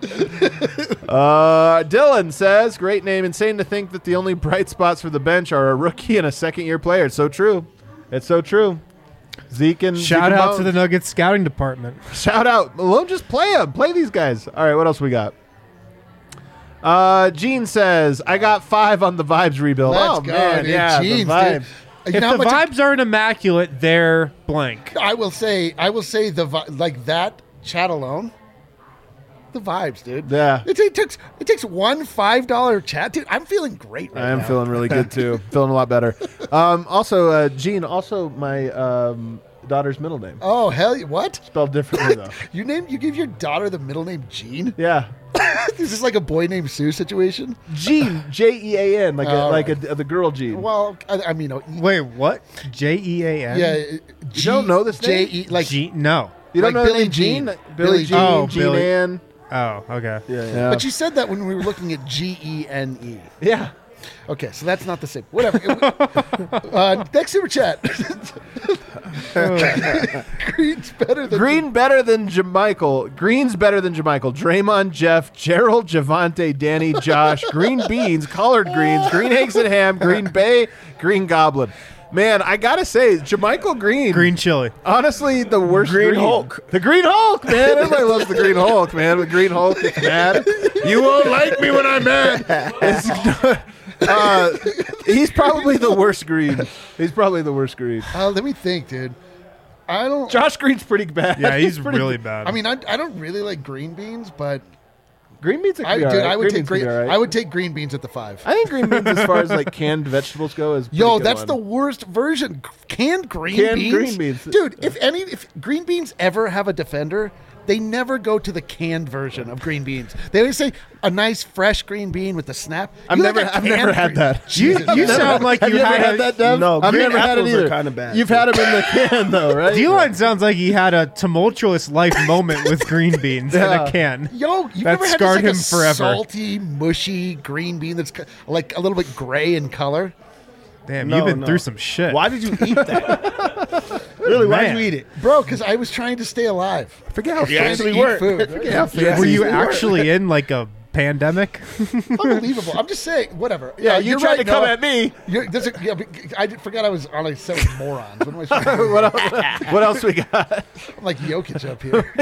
Dylan says, "Great name. Insane to think that the only bright spots for the bench are a rookie and a second-year player." It's so true. It's so true. Zeke and Shout Zeke out and to the Nuggets scouting department. Shout out. Malone, just play them. Play these guys. All right, what else we got? Gene says, "I got 5 on the Vibes rebuild." Let's oh, go, man. dude. Yeah, Jeans, the Vibes. dude. You If know how the much vibes aren't immaculate, they're blank. I will say like that chat alone. The vibes, dude. Yeah. It takes one $5 chat, dude. I'm feeling great right I am now. feeling really good, too. Feeling a lot better. Also, Gene, also my daughter's middle name. Oh hell, what? Spelled differently, though. You give your daughter the middle name Gene? Yeah. Is this like a boy named Sue situation? Gene, Jean, like right. the girl Gene. Well, I mean, Wait, what? Jean? yeah. You don't know this name? J-E, like No. You don't like know Billie the name Jean. Gene? Billie Jean. Oh, Jean Billie. Ann. Oh, okay. Yeah. But you said that when we were looking at Gene. Yeah. Okay, so that's not the same. Whatever. Next super chat. Green's better than Green better than Jamichael. Green's better than Jamichael. Draymond, Jeff, Gerald, Javante, Danny, Josh, green beans, collard greens, green eggs and ham, green bay, green goblin. Man, I gotta say, Jamichael Green. Green chili. Honestly, the worst Green Hulk. The Green Hulk, man. Everybody loves the Green Hulk, man. The Green Hulk is mad. You won't like me when I'm mad. He's probably the worst Green. He's probably the worst Green. let me think, dude. I don't. Josh Green's pretty bad. Yeah, he's pretty really bad. I mean, I don't really like green beans, but green beans. I would take green. I would take green beans at the 5. I think green beans, as far as like canned vegetables go, is Yo, pretty good that's one. the worst version. Canned green beans, dude. If green beans ever have a defender, they never go to the canned version of green beans. They always say a nice fresh green bean with the snap. I've never had that. You sound like Have you you ever had had that, Dev? No, I've green never had it apples are either. kinda bad, You've too. had them in the can, though, right? D-Line sounds like he had a tumultuous life moment with green beans in Yeah. a can. Yo, you've That ever had scarred just, him like, a forever. salty, mushy green bean that's like a little bit gray in color? Damn, No, you've been no. through some shit. Why did you eat that? Really, why did Man. you eat it? Bro, because I was trying to stay alive. Forget how You Trying fancy. to actually eat were. food. Forget how fancy. Were you we actually in like a pandemic? Unbelievable. I'm just saying, whatever. Yeah, you you're tried right, to come Noah. at me. I forgot I was on a set with morons. What am I supposed to do? What else we got? I'm like Jokic up here.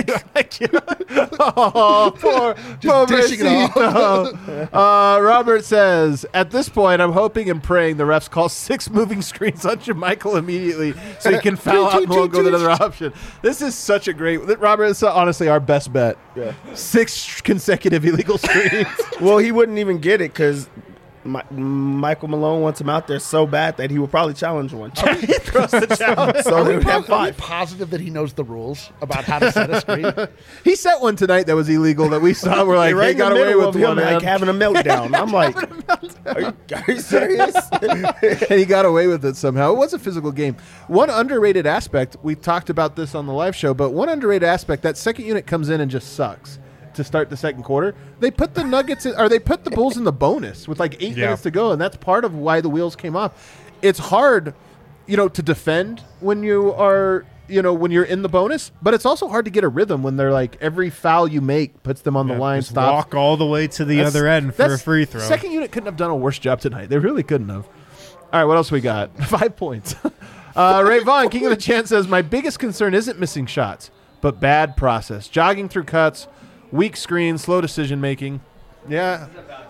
Oh, poor dishing it pobrecito. Robert says, at this point, I'm hoping and praying the refs call 6 moving screens on Jamichael immediately so he can foul out and won't go to another option. This is such a great... Robert, it's honestly our best bet. Yeah. 6 consecutive illegal screens. Well, he wouldn't even get it because Michael Malone wants him out there so bad that he would probably challenge one. He throws the challenge. So they would have Are we 5. positive that he knows the rules about how to set a screen? He set one tonight that was illegal that we saw. We're like, right he in the got away middle with of him one. like man. having a meltdown. I'm like, are you serious? And he got away with it somehow. It was a physical game. One underrated aspect, we talked about this on the live show, but one underrated aspect, that second unit comes in and just sucks to start the second quarter. They put the Nuggets in, or they put the Bulls in the bonus with like 8 minutes to go, and that's part of why the wheels came off. It's hard, to defend when you are, when you're in the bonus, but it's also hard to get a rhythm when they're like every foul you make puts them on the line, Just stops. walk all the way to the other end for a free throw. Second unit couldn't have done a worse job tonight. They really couldn't have. All right, what else we got? 5 points. Ray Vaughn, King of the Chant, says, my biggest concern isn't missing shots, but bad process. Jogging through cuts, weak screen, slow decision making. Yeah.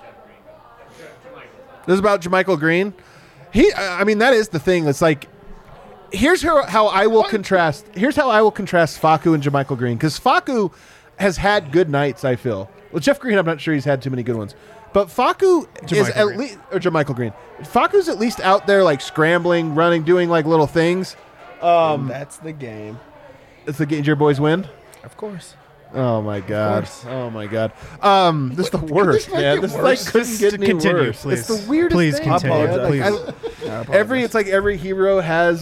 This is about Jamichael Green. That is the thing. It's like, here's how I will contrast. Here's how I will contrast Facu and Jamichael Green, because Facu has had good nights. I feel. Well, Jeff Green, I'm not sure he's had too many good ones, but Facu is at least, or Jamichael Green. Facu's at least out there like scrambling, running, doing like little things. That's the game. It's the Ganger Boys win. Of course. Oh my god! course. Oh my god! This is the worst, this not man. get This worse? like couldn't get any Continue, worse. please. It's the weirdest Please thing. continue, man. please. It's like every hero has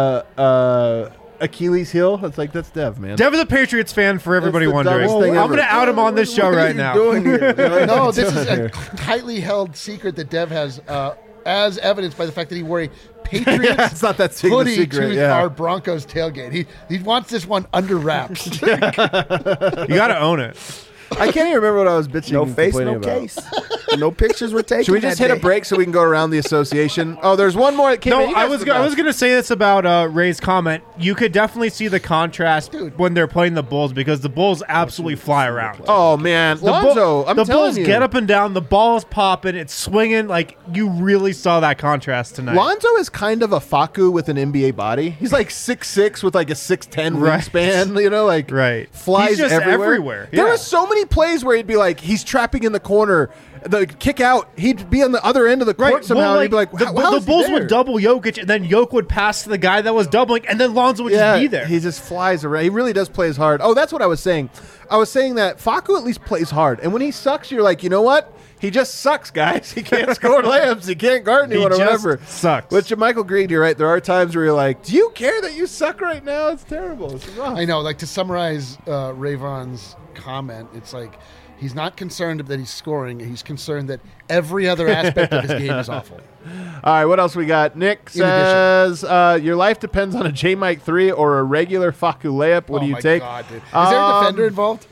Achilles heel. It's like that's Dev, man. Dev is a Patriots fan for everybody the wondering. dumbest thing I'm ever. going to out him on this show What are right you now. doing here? No, this is doing a tightly held secret that Dev has, as evidenced by the fact that he wore a Patriots Yeah, it's not that secret. hoodie secret. to Yeah. our Broncos tailgate. He wants this one under wraps. You got to own it. I can't even remember what I was bitching. No and face, complaining no about. case. No pictures were taken. Should we just that hit a day. break so we can go around the association? Oh, there's one more that came in. No, You I guys was forgot. going to say this about Ray's comment. You could definitely see the contrast Dude. when they're playing the Bulls because the Bulls absolutely fly around. Oh man, Lonzo! I'm the telling Bulls you, get up and down. The ball is popping. It's swinging. Like you really saw that contrast tonight. Lonzo is kind of a Faku with an NBA body. He's like 6'6" with like a 6'10" Right. wingspan. You know, like Right. flies He's just everywhere. There Yeah. were so many plays where he'd be like, he's trapping in the corner, the kick out. He'd be on the other end of the court somehow. Well, and he'd be like, the, how the is he Bulls there? would double Jokic, and then Jokic would pass to the guy that was doubling, and then Lonzo would just be there. He just flies around. He really does play as hard. Oh, that's what I was saying. I was saying that Faku at least plays hard. And when he sucks, you're like, you know what? He just sucks, guys. He can't score layups. He can't guard anyone or just whatever. sucks. Which Michael Green, you're right. There are times where you're like, do you care that you suck right now? It's terrible. It's rough. I know, like to summarize Rayvon's comment, it's like he's not concerned that he's scoring. He's concerned that every other aspect of his game is awful. All right, what else we got? Nick In addition. says, your life depends on a J Mike 3 or a regular Faku layup. What do you my take? God, dude. Is there a defender involved?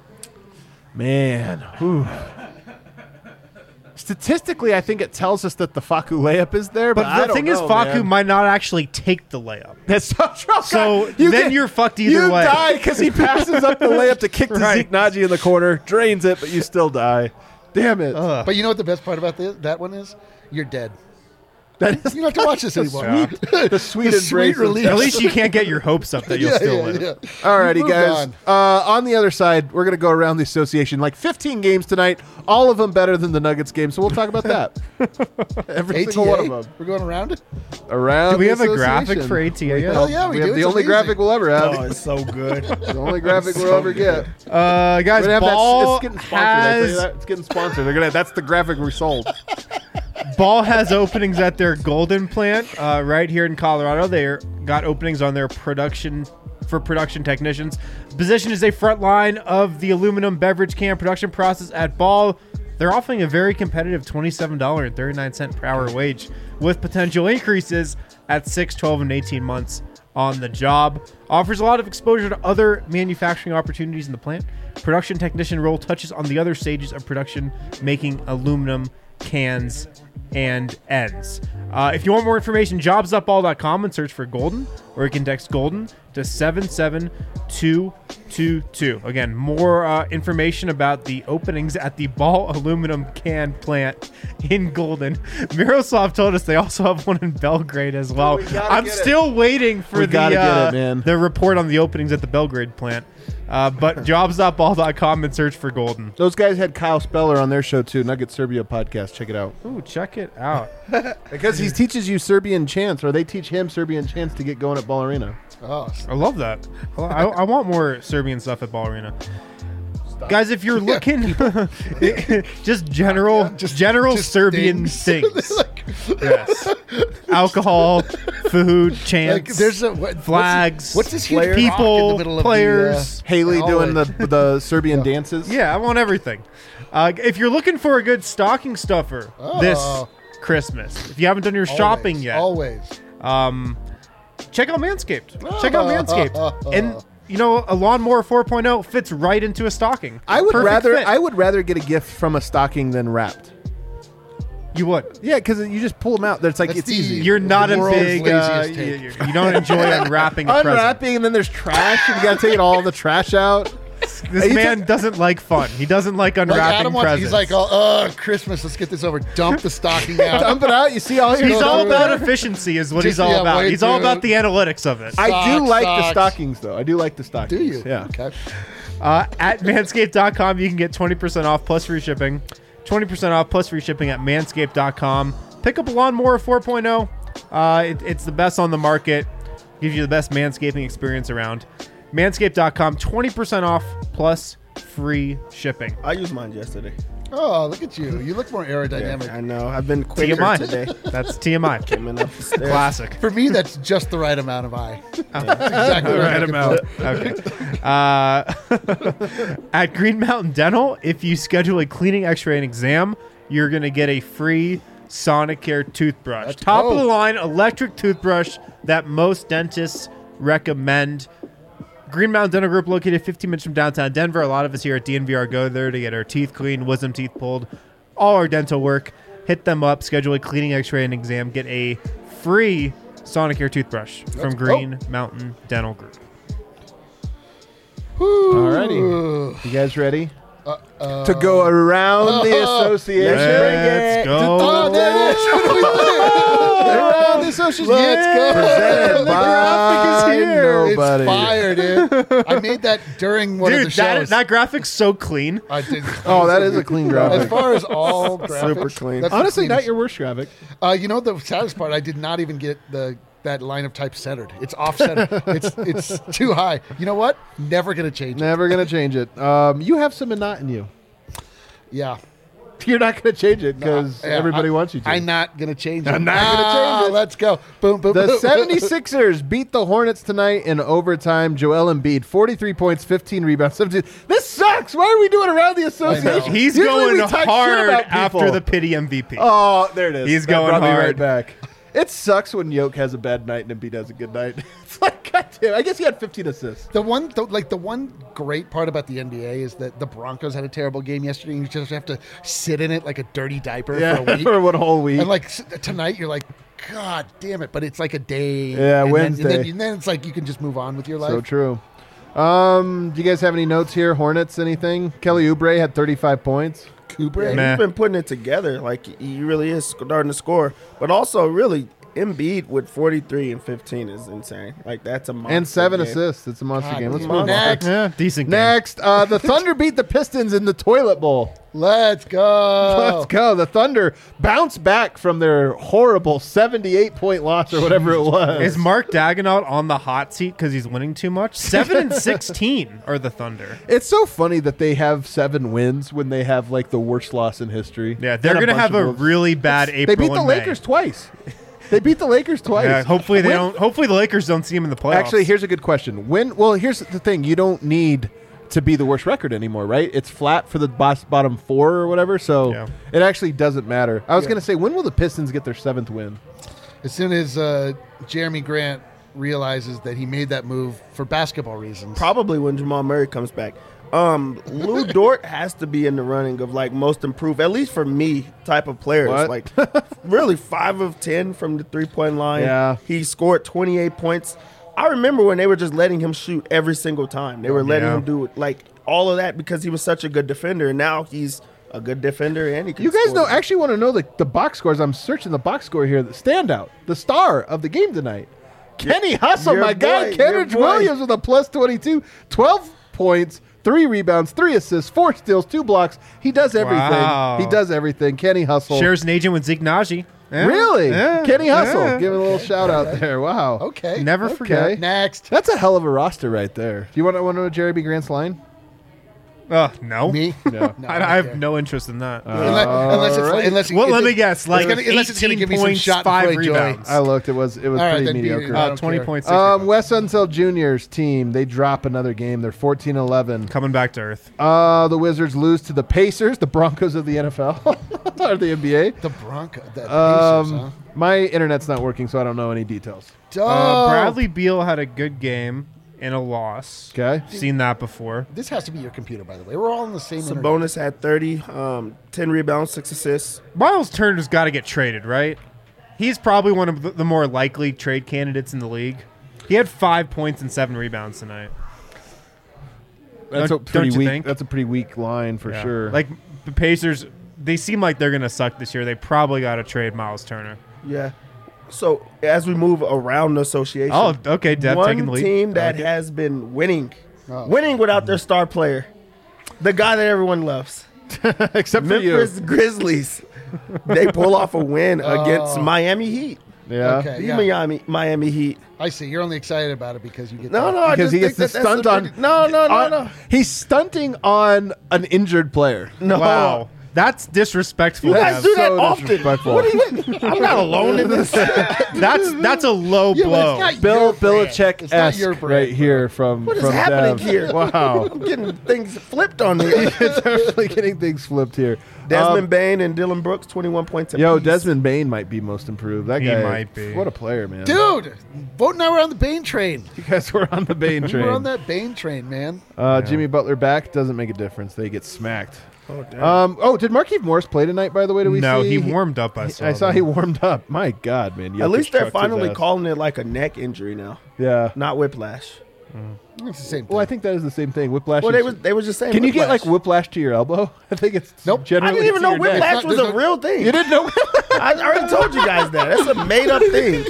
Man, whew. Statistically, I think it tells us that the Faku layup is there, but, I But the don't thing is, know, Faku man. might not actually take the layup. That's so true. So You then get- you're fucked either you way. die because he passes up the layup to kick to Right. Zeke Naji in the corner, drains it, but you still die. Damn it. But you know what the best part about that one is? You're dead. That is You don't have to watch this anymore. the sweet The embrace. sweet of relief. At least you can't get your hopes up that you'll still live. Alrighty, Moved guys. on. On the other side, we're going to go around the association. Like 15 games tonight, all of them better than the Nuggets game, so we'll talk about that. Every single one of them. We're going around it? Around Do we the have a graphic association. for ATA yet? Hell yeah, we do. have the It's only amazing. graphic we'll ever have. Oh, it's so good. The only graphic we'll ever get. Guys, We're gonna have Ball it's getting sponsored. I tell you has that. It's getting sponsored. That's the graphic we sold. Ball has openings at their Golden plant right here in Colorado. They got openings on their production technicians. The position is a front line of the aluminum beverage can production process at Ball. They're offering a very competitive $27.39 per hour wage with potential increases at 6, 12, and 18 months on the job. Offers a lot of exposure to other manufacturing opportunities in the plant. Production technician role touches on the other stages of production, making aluminum cans and ends. If you want more information, jobs.ball.com and search for Golden, or you can text Golden to 77222. Again, more information about the openings at the Ball aluminum can plant in Golden. Miroslav told us they also have one in Belgrade as well. we gotta I'm get it. still waiting for We gotta get it, man. the report on the openings at the Belgrade plant. But jobs.ball.com and search for Golden. Those guys had Kyle Speller on their show too, Nugget Serbia podcast. Check it out. Ooh, check it out. Because he teaches you Serbian chants, or they teach him Serbian chants to get going at Ball Arena. Oh, I love that. I want more Serbian stuff at Ball Arena. Guys, if you're looking, just general just Serbian things. things. Yes. Alcohol, food, chants, like there's a what, flags, What's this huge players, rock in the people, middle of players. Haley hallway? doing the Serbian dances. Yeah, I want everything. If you're looking for a good stocking stuffer this Christmas, if you haven't done your shopping yet, Always. check out Manscaped. Check out Manscaped. And you know, a lawnmower 4.0 fits right into a stocking. I would Perfect fit. rather get a gift from a stocking than wrapped. You would. Yeah, because you just pull them out. That's like That's it's the- easy. You're not a world's big. laziest take. You don't enjoy unwrapping a present. Unwrapping, and then there's trash. And you got to take all the trash out. This You man doesn't like fun. He doesn't like Like unwrapping Adam wants, presents. he's like, oh, Christmas, let's get this over. Dump the stocking out. Dump it out. You see all your. he's go all through about it. efficiency, is what Just, he's all yeah, about. wait He's all through about it. the analytics of it. I do Socks, like the socks. stockings, though. I do like the stockings. Do you? Yeah. Okay. At manscaped.com, you can get 20% off plus free shipping. 20% off plus free shipping at manscaped.com. Pick up a lawnmower 4.0. It's the best on the market. Gives you the best manscaping experience around. Manscaped.com, 20% off plus free shipping. I used mine yesterday. Oh, look at you. You look more aerodynamic. I know. I've been quicker TMI. today. That's TMI. Coming up the stairs. Classic. For me, that's just the right amount of eye. That's exactly The what right I'm looking amount. Okay. At Green Mountain Dental, if you schedule a cleaning, x-ray, and exam, you're going to get a free Sonicare toothbrush. Let's Top go. of the line electric toothbrush that most dentists recommend. Green Mountain Dental Group, located 15 minutes from downtown Denver. A lot of us here at DNVR go there to get our teeth cleaned, wisdom teeth pulled, all our dental work. Hit them up, schedule a cleaning, x-ray, and exam. Get a free Sonicare toothbrush from Let's go. Green Mountain Dental Group. Alrighty. You guys ready? To go around the association. Let's go. Oh, there it is. What are we doing? Around the association. Let's go. Presented The graphic is here. nobody. It's fire, dude. I made that during one of the Dude, shows. that graphic's so clean. I did. Oh, that is a clean As graphic. far as all graphics, Super clean. that's the Honestly, not cleanest. your worst graphic. You know the saddest part? I did not even get that line of type centered. It's off center. it's too high. You know what? Never gonna change it. Never going to change it. You have some Minot in you. Yeah. You're not going to change it because Yeah, everybody wants you to. I'm not gonna change it. I'm not gonna change it. Let's go. Boom, boom, The boom. 76ers beat the Hornets tonight in overtime. Joel Embiid, 43 points, 15 rebounds. 17. This sucks. Why are we doing around the association? He's Usually we going talk shit hard about after people. the pity MVP. Oh, there it is. He's That going brought me hard. right back. It sucks when Yoke has a bad night and Embiid has a good night. It's like, goddamn. I guess he had 15 assists. The one great part about the NBA is that the Broncos had a terrible game yesterday, and you just have to sit in it like a dirty diaper for a week. for one whole week. And like tonight, you're like, God damn it! But it's like a day. Yeah, and Wednesday. and then it's like you can just move on with your life. So true. Do you guys have any notes here? Hornets, anything? Kelly Oubre had 35 points. Cooper. Yeah, Meh. he's been putting it together. Like, he really is starting to score. But also, really, Embiid with 43 and 15 is insane. Like, that's a monster And 7 game. assists. It's a monster God, game. Let's he's move on. next. Yeah, decent game. Next, the Thunder beat the Pistons in the toilet bowl. Let's go. Let's go. The Thunder bounced back from their horrible 78-point loss or whatever it was. Is Mark Daigneault on the hot seat because he's winning too much? 7-16 are the Thunder. It's so funny that they have 7 wins when they have like the worst loss in history. Yeah, they're And going to bunch have of a moves. really bad April They beat the and May. Lakers twice. They beat the Lakers twice. Yeah, hopefully they When- don't. Hopefully the Lakers don't see him in the playoffs. Actually, here's a good question. Well, here's the thing. You don't need to be the worst record anymore, right? It's flat for the bottom 4 or whatever, so Yeah. it actually doesn't matter. I was going to say, when will the Pistons get their 7th win? As soon as Jeremy Grant realizes that he made that move for basketball reasons. Probably when Jamal Murray comes back. Lou Dort has to be in the running of like most improved, at least for me, type of players. What? Like really 5 of 10 from the 3-point line. Yeah. He scored 28 points. I remember when they were just letting him shoot every single time. They were letting Yeah. him do like all of that because he was such a good defender. And now he's a good defender and he can You guys score. actually want to know the box scores. I'm searching the box score here. The standout, the star of the game tonight. Kenny Hustle, your my guy. boy, Kenrich your boy. Williams with a plus 22. 12 points, 3 rebounds, 3 assists, 4 steals, 2 blocks. He does everything. Wow. He does everything. Kenny Hustle. shares an agent with Zeke Naji. Yeah, Really? yeah, Kenny Hustle. yeah. Give him a little shout out there. Wow. Okay. Never Okay. forget. Next. That's a hell of a roster right there. Do you want to know Jerry B. Grant's line? No. Me? No. No, I have okay. no interest in that. Unless well, let me guess. Like unless it's gonna give me some 18 shot points, and 5 play joy. rebounds. I looked. It was right, pretty then mediocre. I don't 20 care. points. Wes Unseld Jr.'s team, they drop another game. They're 14-11. Coming back to earth. The Wizards lose to the Pacers, the Broncos of the NFL, or the NBA. The Bronco. The Pacers, huh? My internet's not working, so I don't know any details. Dope. Bradley Beal had a good game and a loss. Okay. Seen that before. This has to be your computer, by the way. We're all on the same internet. Sabonis had 30, 10 rebounds, 6 assists. Miles Turner's got to get traded, right? He's probably one of the more likely trade candidates in the league. He had 5 points and 7 rebounds tonight. That's Don't- a pretty don't you weak. think? That's a pretty weak line for Yeah. sure. Like the Pacers, they seem like they're gonna suck this year. They probably got to trade Miles Turner. Yeah. So as we move around the association, Oh, okay, Dev taking the one lead. team that I like it. has been winning Oh. without their star player, the guy that everyone loves, except for Memphis Grizzlies. They pull off a win against Miami Heat. you. Yeah. Okay. The Yeah. Miami Heat. I see. You're only excited about it because you get No, that. no, I Because just he gets think to that that's stunt a on. pretty- No. He's stunting on an injured player. No. Wow, that's disrespectful. You to guys have. do that so often. disrespectful. What do you? I'm not alone in this. That's a low Yeah, but blow. it's not Bill your brand. Belichick It's not your esque brand, right bro. here from What is from happening Dev. here? Wow, I'm getting things flipped on me. it's definitely getting things flipped here. Desmond Bain and Dylan Brooks, 21 points. Yo, apiece. Desmond Bain might be most improved. That He guy might be. What a player, man! Dude, Vote and I were on the Bane train. You guys were on the Bain We train. were on that Bane train, man. Jimmy Butler back doesn't make a difference. They get smacked. Oh, damn. Did Markieff Morris play tonight? By the way, do we No, see? he warmed up. I saw. he warmed up. My God, man! At Jokic least they're trucked his finally ass. calling it like a neck injury now, Yeah. not whiplash. It's the same thing. Well, I think that is the same thing. Whiplash. Well, is- they was just saying. Can you get whiplash. like whiplash to your elbow? I think it's Nope. I Generally didn't even to know your neck. whiplash It's not- was there's a no- real thing. You didn't know? I already told you guys that. That's a made up thing.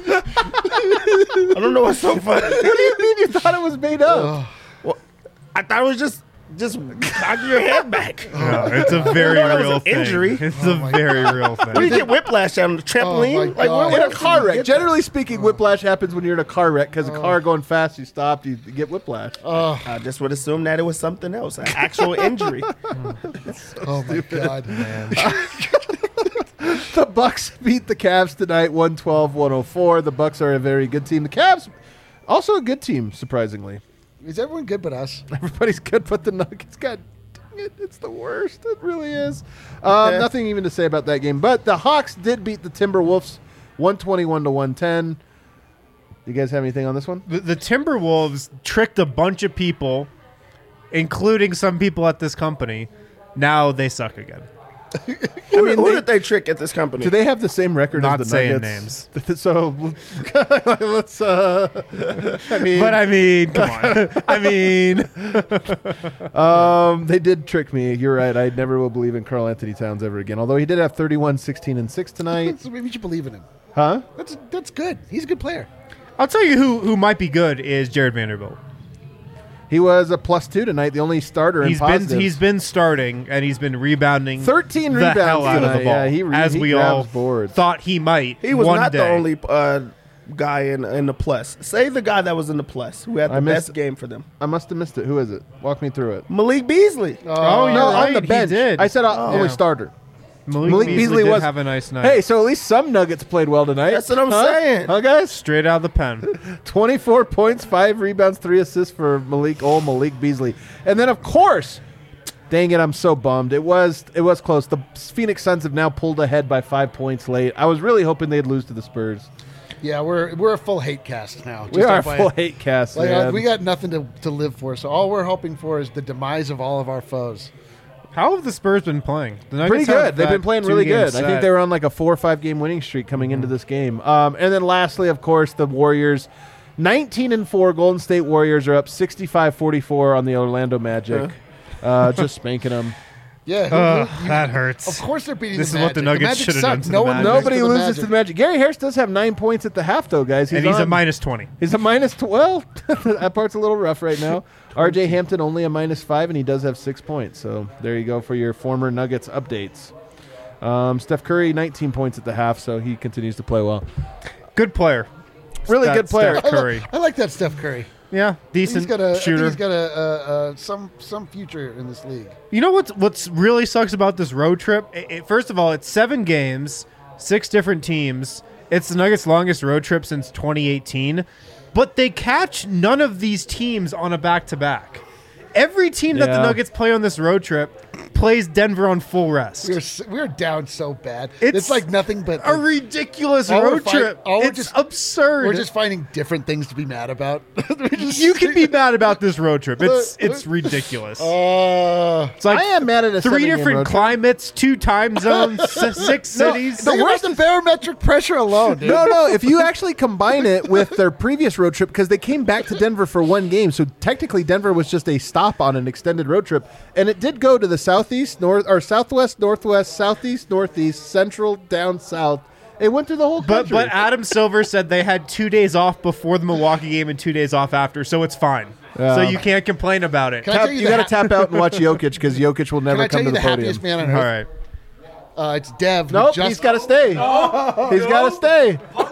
I don't know what's so funny. What do you mean you thought it was made up? Well, I thought it was just knock your head back. No, it's a very That was real an thing. injury. It's a very real Where do you thing. get whiplash on the trampoline? my God. In a else car do you wreck. get Generally speaking, whiplash happens when you're in a car wreck because a car going fast, you stop, you get whiplash. that? I just would assume that it was something else, an actual injury. Oh my God, man. The Bucks beat the Cavs tonight, 112-104. The Bucks are a very good team. The Cavs, also a good team, surprisingly. Is everyone good but us? Everybody's good, but the Nuggets, God dang it, it's the worst. It really is. Nothing even to say about that game. But the Hawks did beat the Timberwolves, 121-110. You guys have anything on this one? The Timberwolves tricked a bunch of people, including some people at this company. Now they suck again. Who did they trick at this company? Do they have the same record Not as the saying Nuggets? So let's. I mean, But I mean, come on. I mean, they did trick me. You're right. I never will believe in Karl Anthony Towns ever again. Although he did have 31, 16, and 6 tonight. So maybe you should believe in him. Huh? That's good. He's a good player. I'll tell you who might be good is Jared Vanderbilt. He was a +2 tonight, the only starter in positives. He's been starting and he's been rebounding 13 the rebounds hell out of the tonight. ball, Yeah, he as he we grabs all boards. thought he might. He was one not day. the only guy in the plus. Say the guy that was in the plus who had the best game for them. I must have missed it. Who is it? Walk me through it. Malik Beasley. Oh, you're no, right. on the bench. He did. I said only Yeah. starter. Malik Beasley did have a nice night. Hey, so at least some Nuggets played well tonight. That's what I'm Huh? saying. Huh, guys? Straight out of the pen. 24 points, 5 rebounds, 3 assists for Malik Beasley. And then, of course, dang it, I'm so bummed. It was close. The Phoenix Suns have now pulled ahead by 5 points late. I was really hoping they'd lose to the Spurs. Yeah, we're a full hate cast now. We are a FYI. full hate cast, Like, man. we got nothing to live for, so all we're hoping for is the demise of all of our foes. How have the Spurs been playing? The Nuggets Pretty good. have They've been that playing really two-game good. I think set. they were on like a 4 or 5 game winning streak coming into this game. And then lastly, of course, the Warriors. 19-4 Golden State Warriors are up 65-44 on the Orlando Magic. Just spanking them. Yeah, that hurts. of course they're beating This the is what the Magic. Nuggets Magic should have suck. done to No the one Magic. Nobody loses loses to the Magic. Gary Harris does have 9 points at the half, though, guys. and he's a on- minus 20. He's a minus 12. That part's a little rough right now. RJ Hampton only a -5, and he does have 6 points. So there you go for your former Nuggets updates. Steph Curry, 19 points at the half, so he continues to play well. Good player. Really That good player. Steph Curry. I like that Steph Curry. Yeah, decent He's got a I think shooter. he's got a some future in this league. You know what's really sucks about this road trip? First of all, it's 7 games, 6 different teams. It's the Nuggets' longest road trip since 2018. But they catch none of these teams on a back-to-back. Every team that the Yeah. Nuggets play on this road trip plays Denver on full rest. We're down so bad. It's It's like nothing but A ridiculous All we're road fight- trip. all we're It's just- absurd. we're just finding different things to be mad about. You can be mad about this road trip. It's ridiculous. It's like I am mad at a 3 7-game different road trip. climates, 2 time zones, 6 cities. Think about the barometric pressure alone, dude. No. If you actually combine it with their previous road trip, because they came back to Denver for 1 game, so technically Denver was just a stop on an extended road trip, and it did go to the southeast, southwest, northwest, southeast, northeast, central, down south. It went through the whole country. But Adam Silver said they had 2 days off before the Milwaukee game and 2 days off after, so it's fine. Yeah. So you can't complain about it. Can I tell you you the got to ha- tap out and watch Jokic because Jokic will Can never I tell come you to the the podium. happiest man on All earth? right. It's Dev. who Nope, just- he's got to stay. He's got to stay.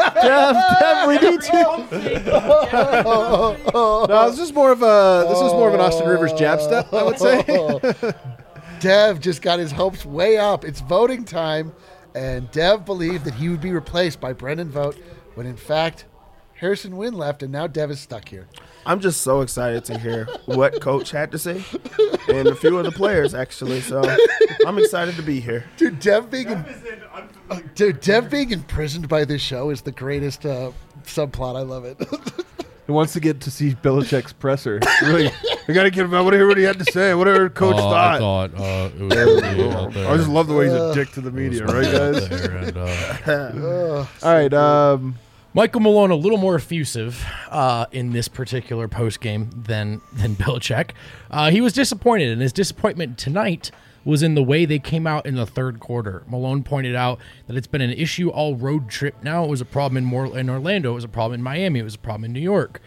Dev, we need you. No, this is more of an Austin Rivers jab step, I would say. Dev just got his hopes way up. It's voting time, and Dev believed that he would be replaced by Brendan Vogt, when in fact, Harrison Wynn left, and now Dev is stuck here. I'm just so excited to hear what Coach had to say, and a few of the players, actually. So I'm excited to be here. Dude, Dev being imprisoned by this show is the greatest subplot. I love it. He wants to get to see Belichick's presser. Really, I got to get him. I want to hear what he had to say. Whatever Coach thought. I thought it was really out there. I just love the way he's a dick to the media, right, guys? All right. Michael Malone a little more effusive in this particular postgame than Belichick. He was disappointed, and his disappointment tonight was in the way they came out in the third quarter. Malone pointed out that it's been an issue all road trip now. It was a problem in Orlando. It was a problem in Miami. It was a problem in New York.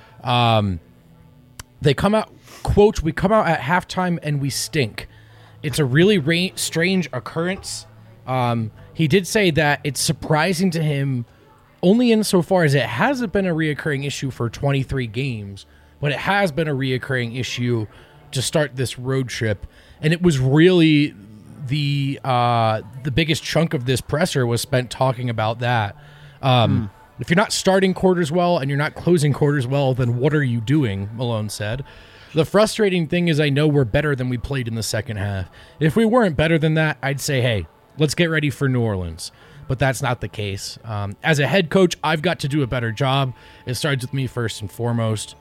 They come out, quote, "We come out at halftime and we stink." It's a really strange occurrence. He did say that it's surprising to him only insofar as it hasn't been a reoccurring issue for 23 games, but it has been a reoccurring issue to start this road trip. And it was really the biggest chunk of this presser was spent talking about that. If you're not starting quarters well and you're not closing quarters well, then what are you doing, Malone said. The frustrating thing is I know we're better than we played in the second half. If we weren't better than that, I'd say, hey, let's get ready for New Orleans. But that's not the case. As a head coach, I've got to do a better job. It starts with me first and foremost.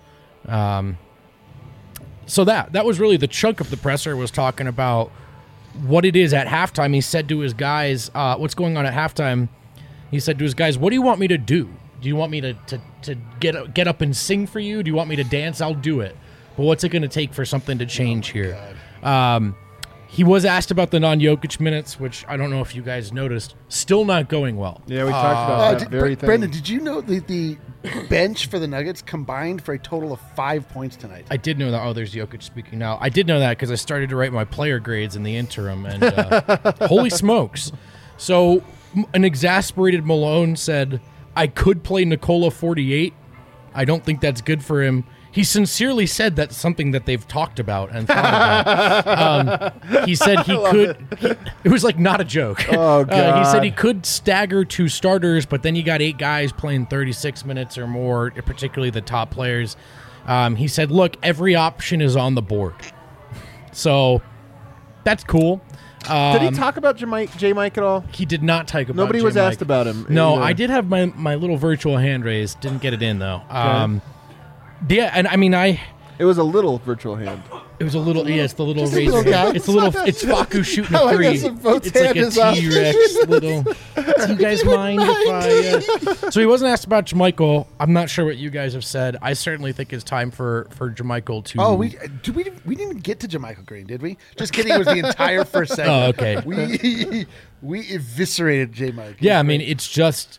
So that was really the chunk of the presser, was talking about what it is at halftime. He said to his guys, what's going on at halftime? He said to his guys, what do you want me to do? Do you want me to get up and sing for you? Do you want me to dance? I'll do it. But what's it going to take for something to change here? He was asked about the non-Jokic minutes, which I don't know if you guys noticed. Still not going well. Yeah, we talked about that very thing. Brendan, did you know the bench for the Nuggets combined for a total of 5 points tonight? I did know that. Oh, there's Jokic speaking now. I did know that because I started to write my player grades in the interim, and holy smokes. So an exasperated Malone said, I could play Nikola 48. I don't think that's good for him. He sincerely said that's something that they've talked about and thought about. He said he could. It was like not a joke. Oh, God. He said he could stagger 2 starters, but then you got 8 guys playing 36 minutes or more, particularly the top players. He said, look, every option is on the board. So that's cool. Did he talk about J. Mike at all? He did not talk about Nobody J. was Mike. asked about him. No, either. I did have my little virtual hand raised. Didn't get it in, though. Yeah, and I mean, It was a little virtual hand. It was a little, yeah, it's the little Just a razor. little guy. It's Faku shooting I a like three. how some votes It's like hand a is up. T-Rex little. Do you guys mind if I? So he wasn't asked about JaMychal. I'm not sure what you guys have said. I certainly think it's time for JaMychal to. Oh, we didn't even get to JaMychal Green, did we? Just kidding. It was the entire first segment. Oh, okay. We eviscerated J. Mike. Yeah, I mean, it's just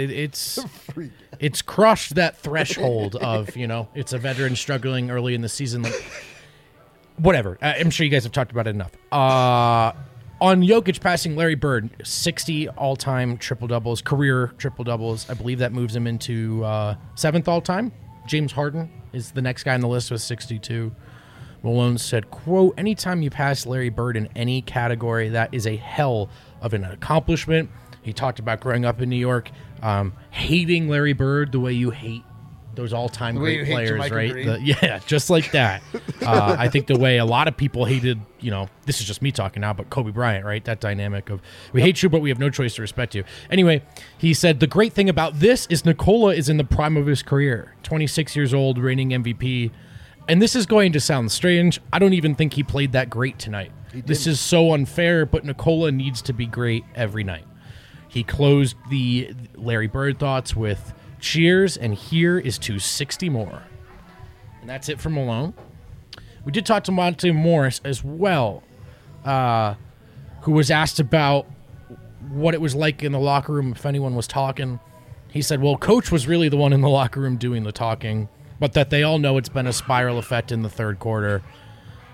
it's crushed that threshold of, it's a veteran struggling early in the season. Like, whatever. I'm sure you guys have talked about it enough. On Jokic passing Larry Bird, 60 all-time triple-doubles, career triple-doubles. I believe that moves him into 7th all-time. James Harden is the next guy on the list with 62. Malone said, quote, anytime you pass Larry Bird in any category, that is a hell of an accomplishment. He talked about growing up in New York, hating Larry Bird the way you hate those all-time great players, right? Yeah, just like that. I think the way a lot of people hated, this is just me talking now, but Kobe Bryant, right? That dynamic of we hate you, but we have no choice to respect you. Anyway, he said, the great thing about this is Nikola is in the prime of his career, 26 years old, reigning MVP. And this is going to sound strange. I don't even think he played that great tonight. This is so unfair, but Nikola needs to be great every night. He closed the Larry Bird thoughts with cheers, and here is to 60 more. And that's it for Malone. We did talk to Monte Morris as well, who was asked about what it was like in the locker room, if anyone was talking. He said, well, Coach was really the one in the locker room doing the talking, but that they all know it's been a spiral effect in the third quarter.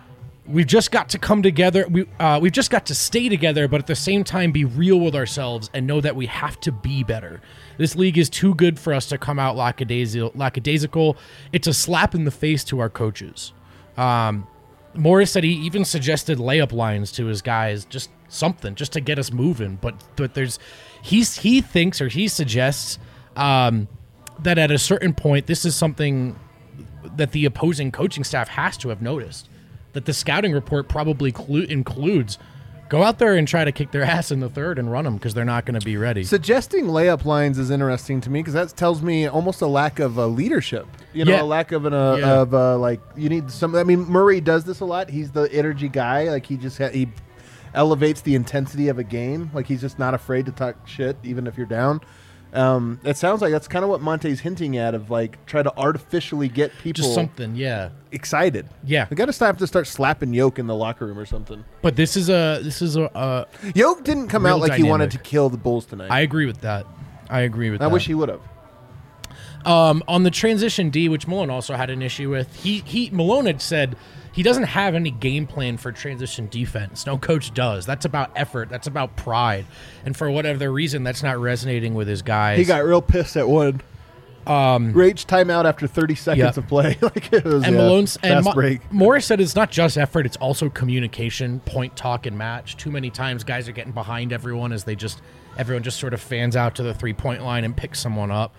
we've just got to come together. We've just got to stay together, but at the same time be real with ourselves and know that we have to be better. This league is too good for us to come out lackadaisical. It's a slap in the face to our coaches. Morris said he even suggested layup lines to his guys, just something, just to get us moving. But he thinks, or he suggests that at a certain point, this is something that the opposing coaching staff has to have noticed, that the scouting report probably includes go out there and try to kick their ass in the third and run them because they're not going to be ready. Suggesting layup lines is interesting to me because that tells me almost a lack of leadership. A lack of like you need some. I mean, Murray does this a lot. He's the energy guy. Like he elevates the intensity of a game. Like he's just not afraid to talk shit even if you're down. It sounds like that's kind of what Monte's hinting at, of like try to artificially get people just something, excited. Yeah, we got to start slapping Yoke in the locker room or something. But this is a Yoke didn't come out like dynamic. He wanted to kill the Bulls tonight. I agree with that. I wish he would have. On the transition D, which Malone also had an issue with, Malone had said he doesn't have any game plan for transition defense. No coach does. That's about effort. That's about pride. And for whatever reason, that's not resonating with his guys. He got real pissed at one. Rage timeout after 30 seconds of play. Like it was, and Malone's fast break. Morris said it's not just effort, it's also communication, point, talk, and match. Too many times guys are getting behind everyone as everyone just sort of fans out to the 3-point line and picks someone up.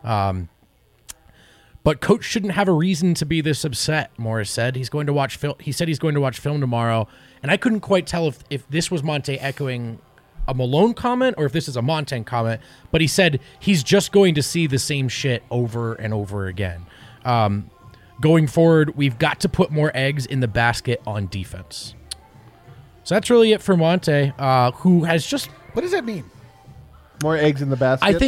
But coach shouldn't have a reason to be this upset, Morris said. He said he's going to watch film tomorrow, and I couldn't quite tell if this was Monte echoing a Malone comment or if this is a Montaigne comment, but he said he's just going to see the same shit over and over again. Going forward, we've got to put more eggs in the basket on defense. So that's really it for Monte, who has just... What does that mean? More eggs in the basket? I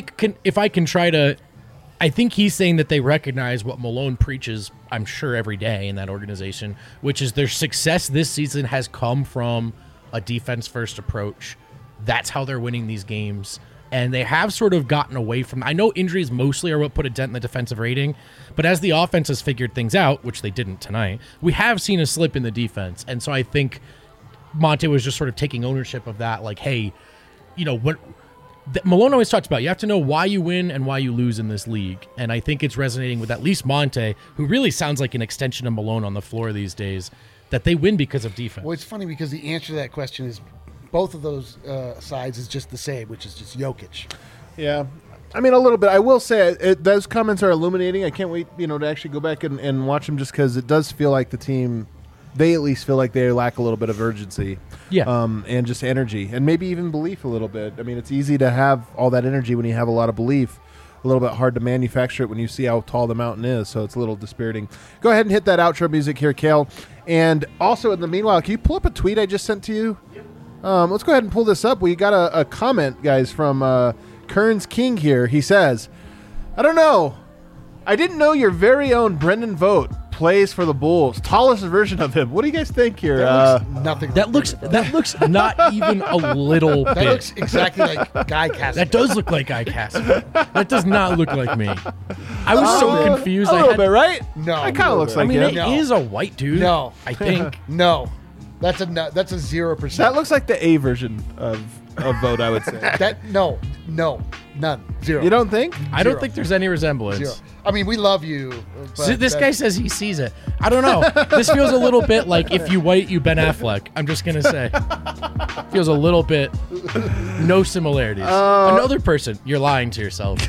think I think he's saying that they recognize what Malone preaches, I'm sure, every day in that organization, which is their success this season has come from a defense-first approach. That's how they're winning these games. And they have sort of gotten away from... I know injuries mostly are what put a dent in the defensive rating, but as the offense has figured things out, which they didn't tonight, we have seen a slip in the defense. And so I think Monte was just sort of taking ownership of that, like, hey, what... Malone always talks about you have to know why you win and why you lose in this league. And I think it's resonating with at least Monte, who really sounds like an extension of Malone on the floor these days, that they win because of defense. Well, it's funny because the answer to that question is both of those sides is just the same, which is just Jokic. Yeah. I mean, a little bit. I will say those comments are illuminating. I can't wait, to actually go back and watch them just because it does feel like the team... They at least feel like they lack a little bit of urgency, and just energy, and maybe even belief a little bit. I mean, it's easy to have all that energy when you have a lot of belief. A little bit hard to manufacture it when you see how tall the mountain is, so it's a little dispiriting. Go ahead and hit that outro music here, Kale. And also, in the meanwhile, can you pull up a tweet I just sent to you? Let's go ahead and pull this up. We got a comment, guys, from Kearns King here. He says, I don't know. I didn't know your very own Brendan Vogt plays for the Bulls. Tallest version of him. What do you guys think here? That looks nothing. That looks not even a little bit. That looks exactly like Guy Cassidy. That does look like Guy Cassidy. That does not look like me. I was so confused. A little bit, right? No. It kind of looks like him. It is a white dude. No. I think. No. That's a 0%. That looks like the A version of Vogt, I would say. No. None. 0. You don't think? I don't think there's any resemblance. 0. I mean, we love you. So this guy says he sees it. I don't know. This feels a little bit like if you white, you Ben Affleck. I'm just going to say. Feels a little bit no similarities. Another person, you're lying to yourself.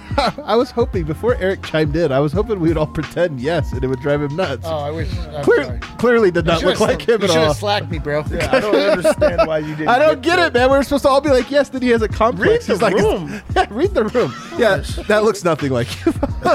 I was hoping, before Eric chimed in, I was hoping we would all pretend yes, and it would drive him nuts. Oh, I wish. Clearly did not look like him at all. You should have slacked me, bro. Yeah, I don't understand why you didn't. I don't get it, man. We're supposed to all be like, yes, then he has a complex. Read the room. Read the room. Yeah, that looks nothing like you.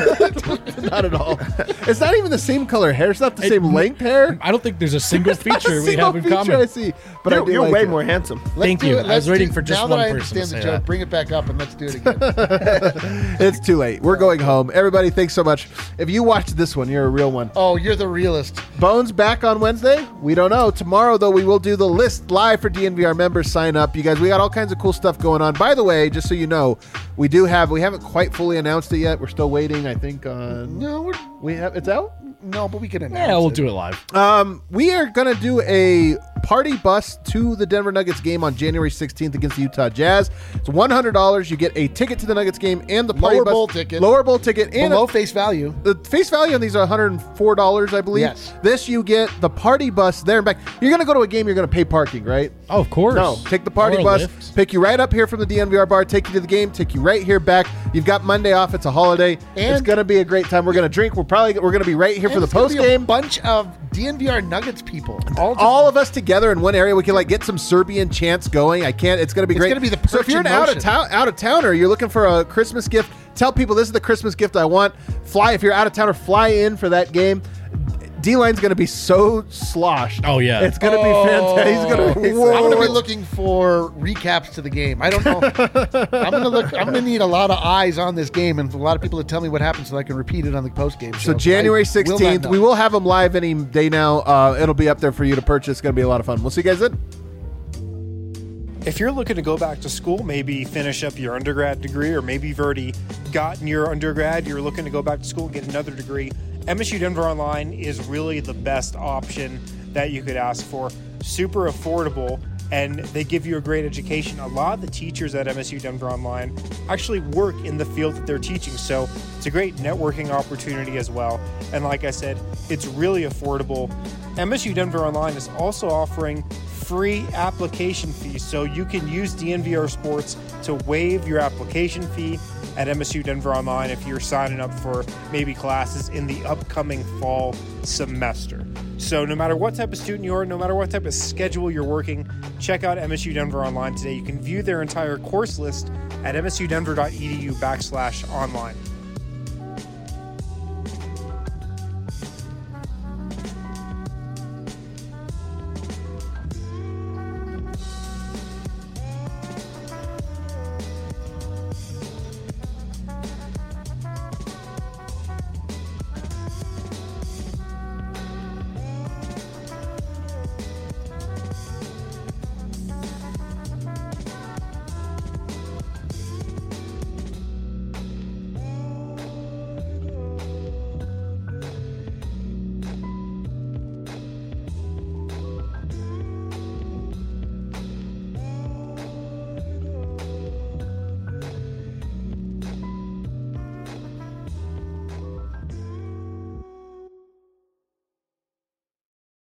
Not at all. It's not even the same color hair. It's not the same length hair. I don't think there's a single feature we have in common. I see. But you're way more handsome. Thank you. I was waiting for just one person to Now that I understand say the joke, that. bring it back up and let's do it again. It's too late. We're going home. Everybody, thanks so much. If you watched this one, you're a real one. Oh, you're the realist. Bones back on Wednesday? We don't know. Tomorrow, though, we will do the list live for DNVR members. Sign up. You guys, we got all kinds of cool stuff going on. By the way, just so you know, we haven't quite fully announced it yet. We're still waiting, I think, on... No, it's out? no, but we can announce Yeah, we'll it. do it live. We are going to do a party bus to the Denver Nuggets game on January 16th against the Utah Jazz. It's $100. You get a ticket to the Nuggets game and the party Lower bus. bowl ticket. Lower bowl ticket. And Below face value. the face value on these are $104, I believe. Yes. This you get the party bus there and back. You're going to go to a game, you're going to pay parking, right? Oh, of course. No, take the party Or a bus, lift. pick you right up here from the DNVR bar, take you to the game, take you right here back. You've got Monday off. It's a holiday. And- it's going to be a great time. We're going to drink. We're going to be right here for And the it's gonna post be a game. bunch of DNVR Nuggets people. All of us together in one area. We can like get some Serbian chants going. It's going to be It's great. gonna be the so if you're an Perch in out of towner, you're looking for a Christmas gift. Tell people this is the Christmas gift I want. Fly if you're out of towner, fly in for that game. D-line's going to be so sloshed. Oh, yeah. It's going to be fantastic. He's going to. I'm going to be looking for recaps to the game. I don't know. I'm going to need a lot of eyes on this game and a lot of people to tell me what happened so I can repeat it on the post game. So January 16th, we will have them live any day now. It'll be up there for you to purchase. It's going to be a lot of fun. We'll see you guys then. If you're looking to go back to school, maybe finish up your undergrad degree, or maybe you've already gotten your undergrad, you're looking to go back to school and get another degree, MSU Denver Online is really the best option that you could ask for. Super affordable, and they give you a great education. A lot of the teachers at MSU Denver Online actually work in the field that they're teaching, so it's a great networking opportunity as well. And like I said, it's really affordable. MSU Denver Online is also offering free application fees, so you can use DNVR Sports to waive your application fee at MSU Denver Online if you're signing up for maybe classes in the upcoming fall semester. So no matter what type of student you are, no matter what type of schedule you're working, check out MSU Denver Online today. You can view their entire course list at msudenver.edu/online.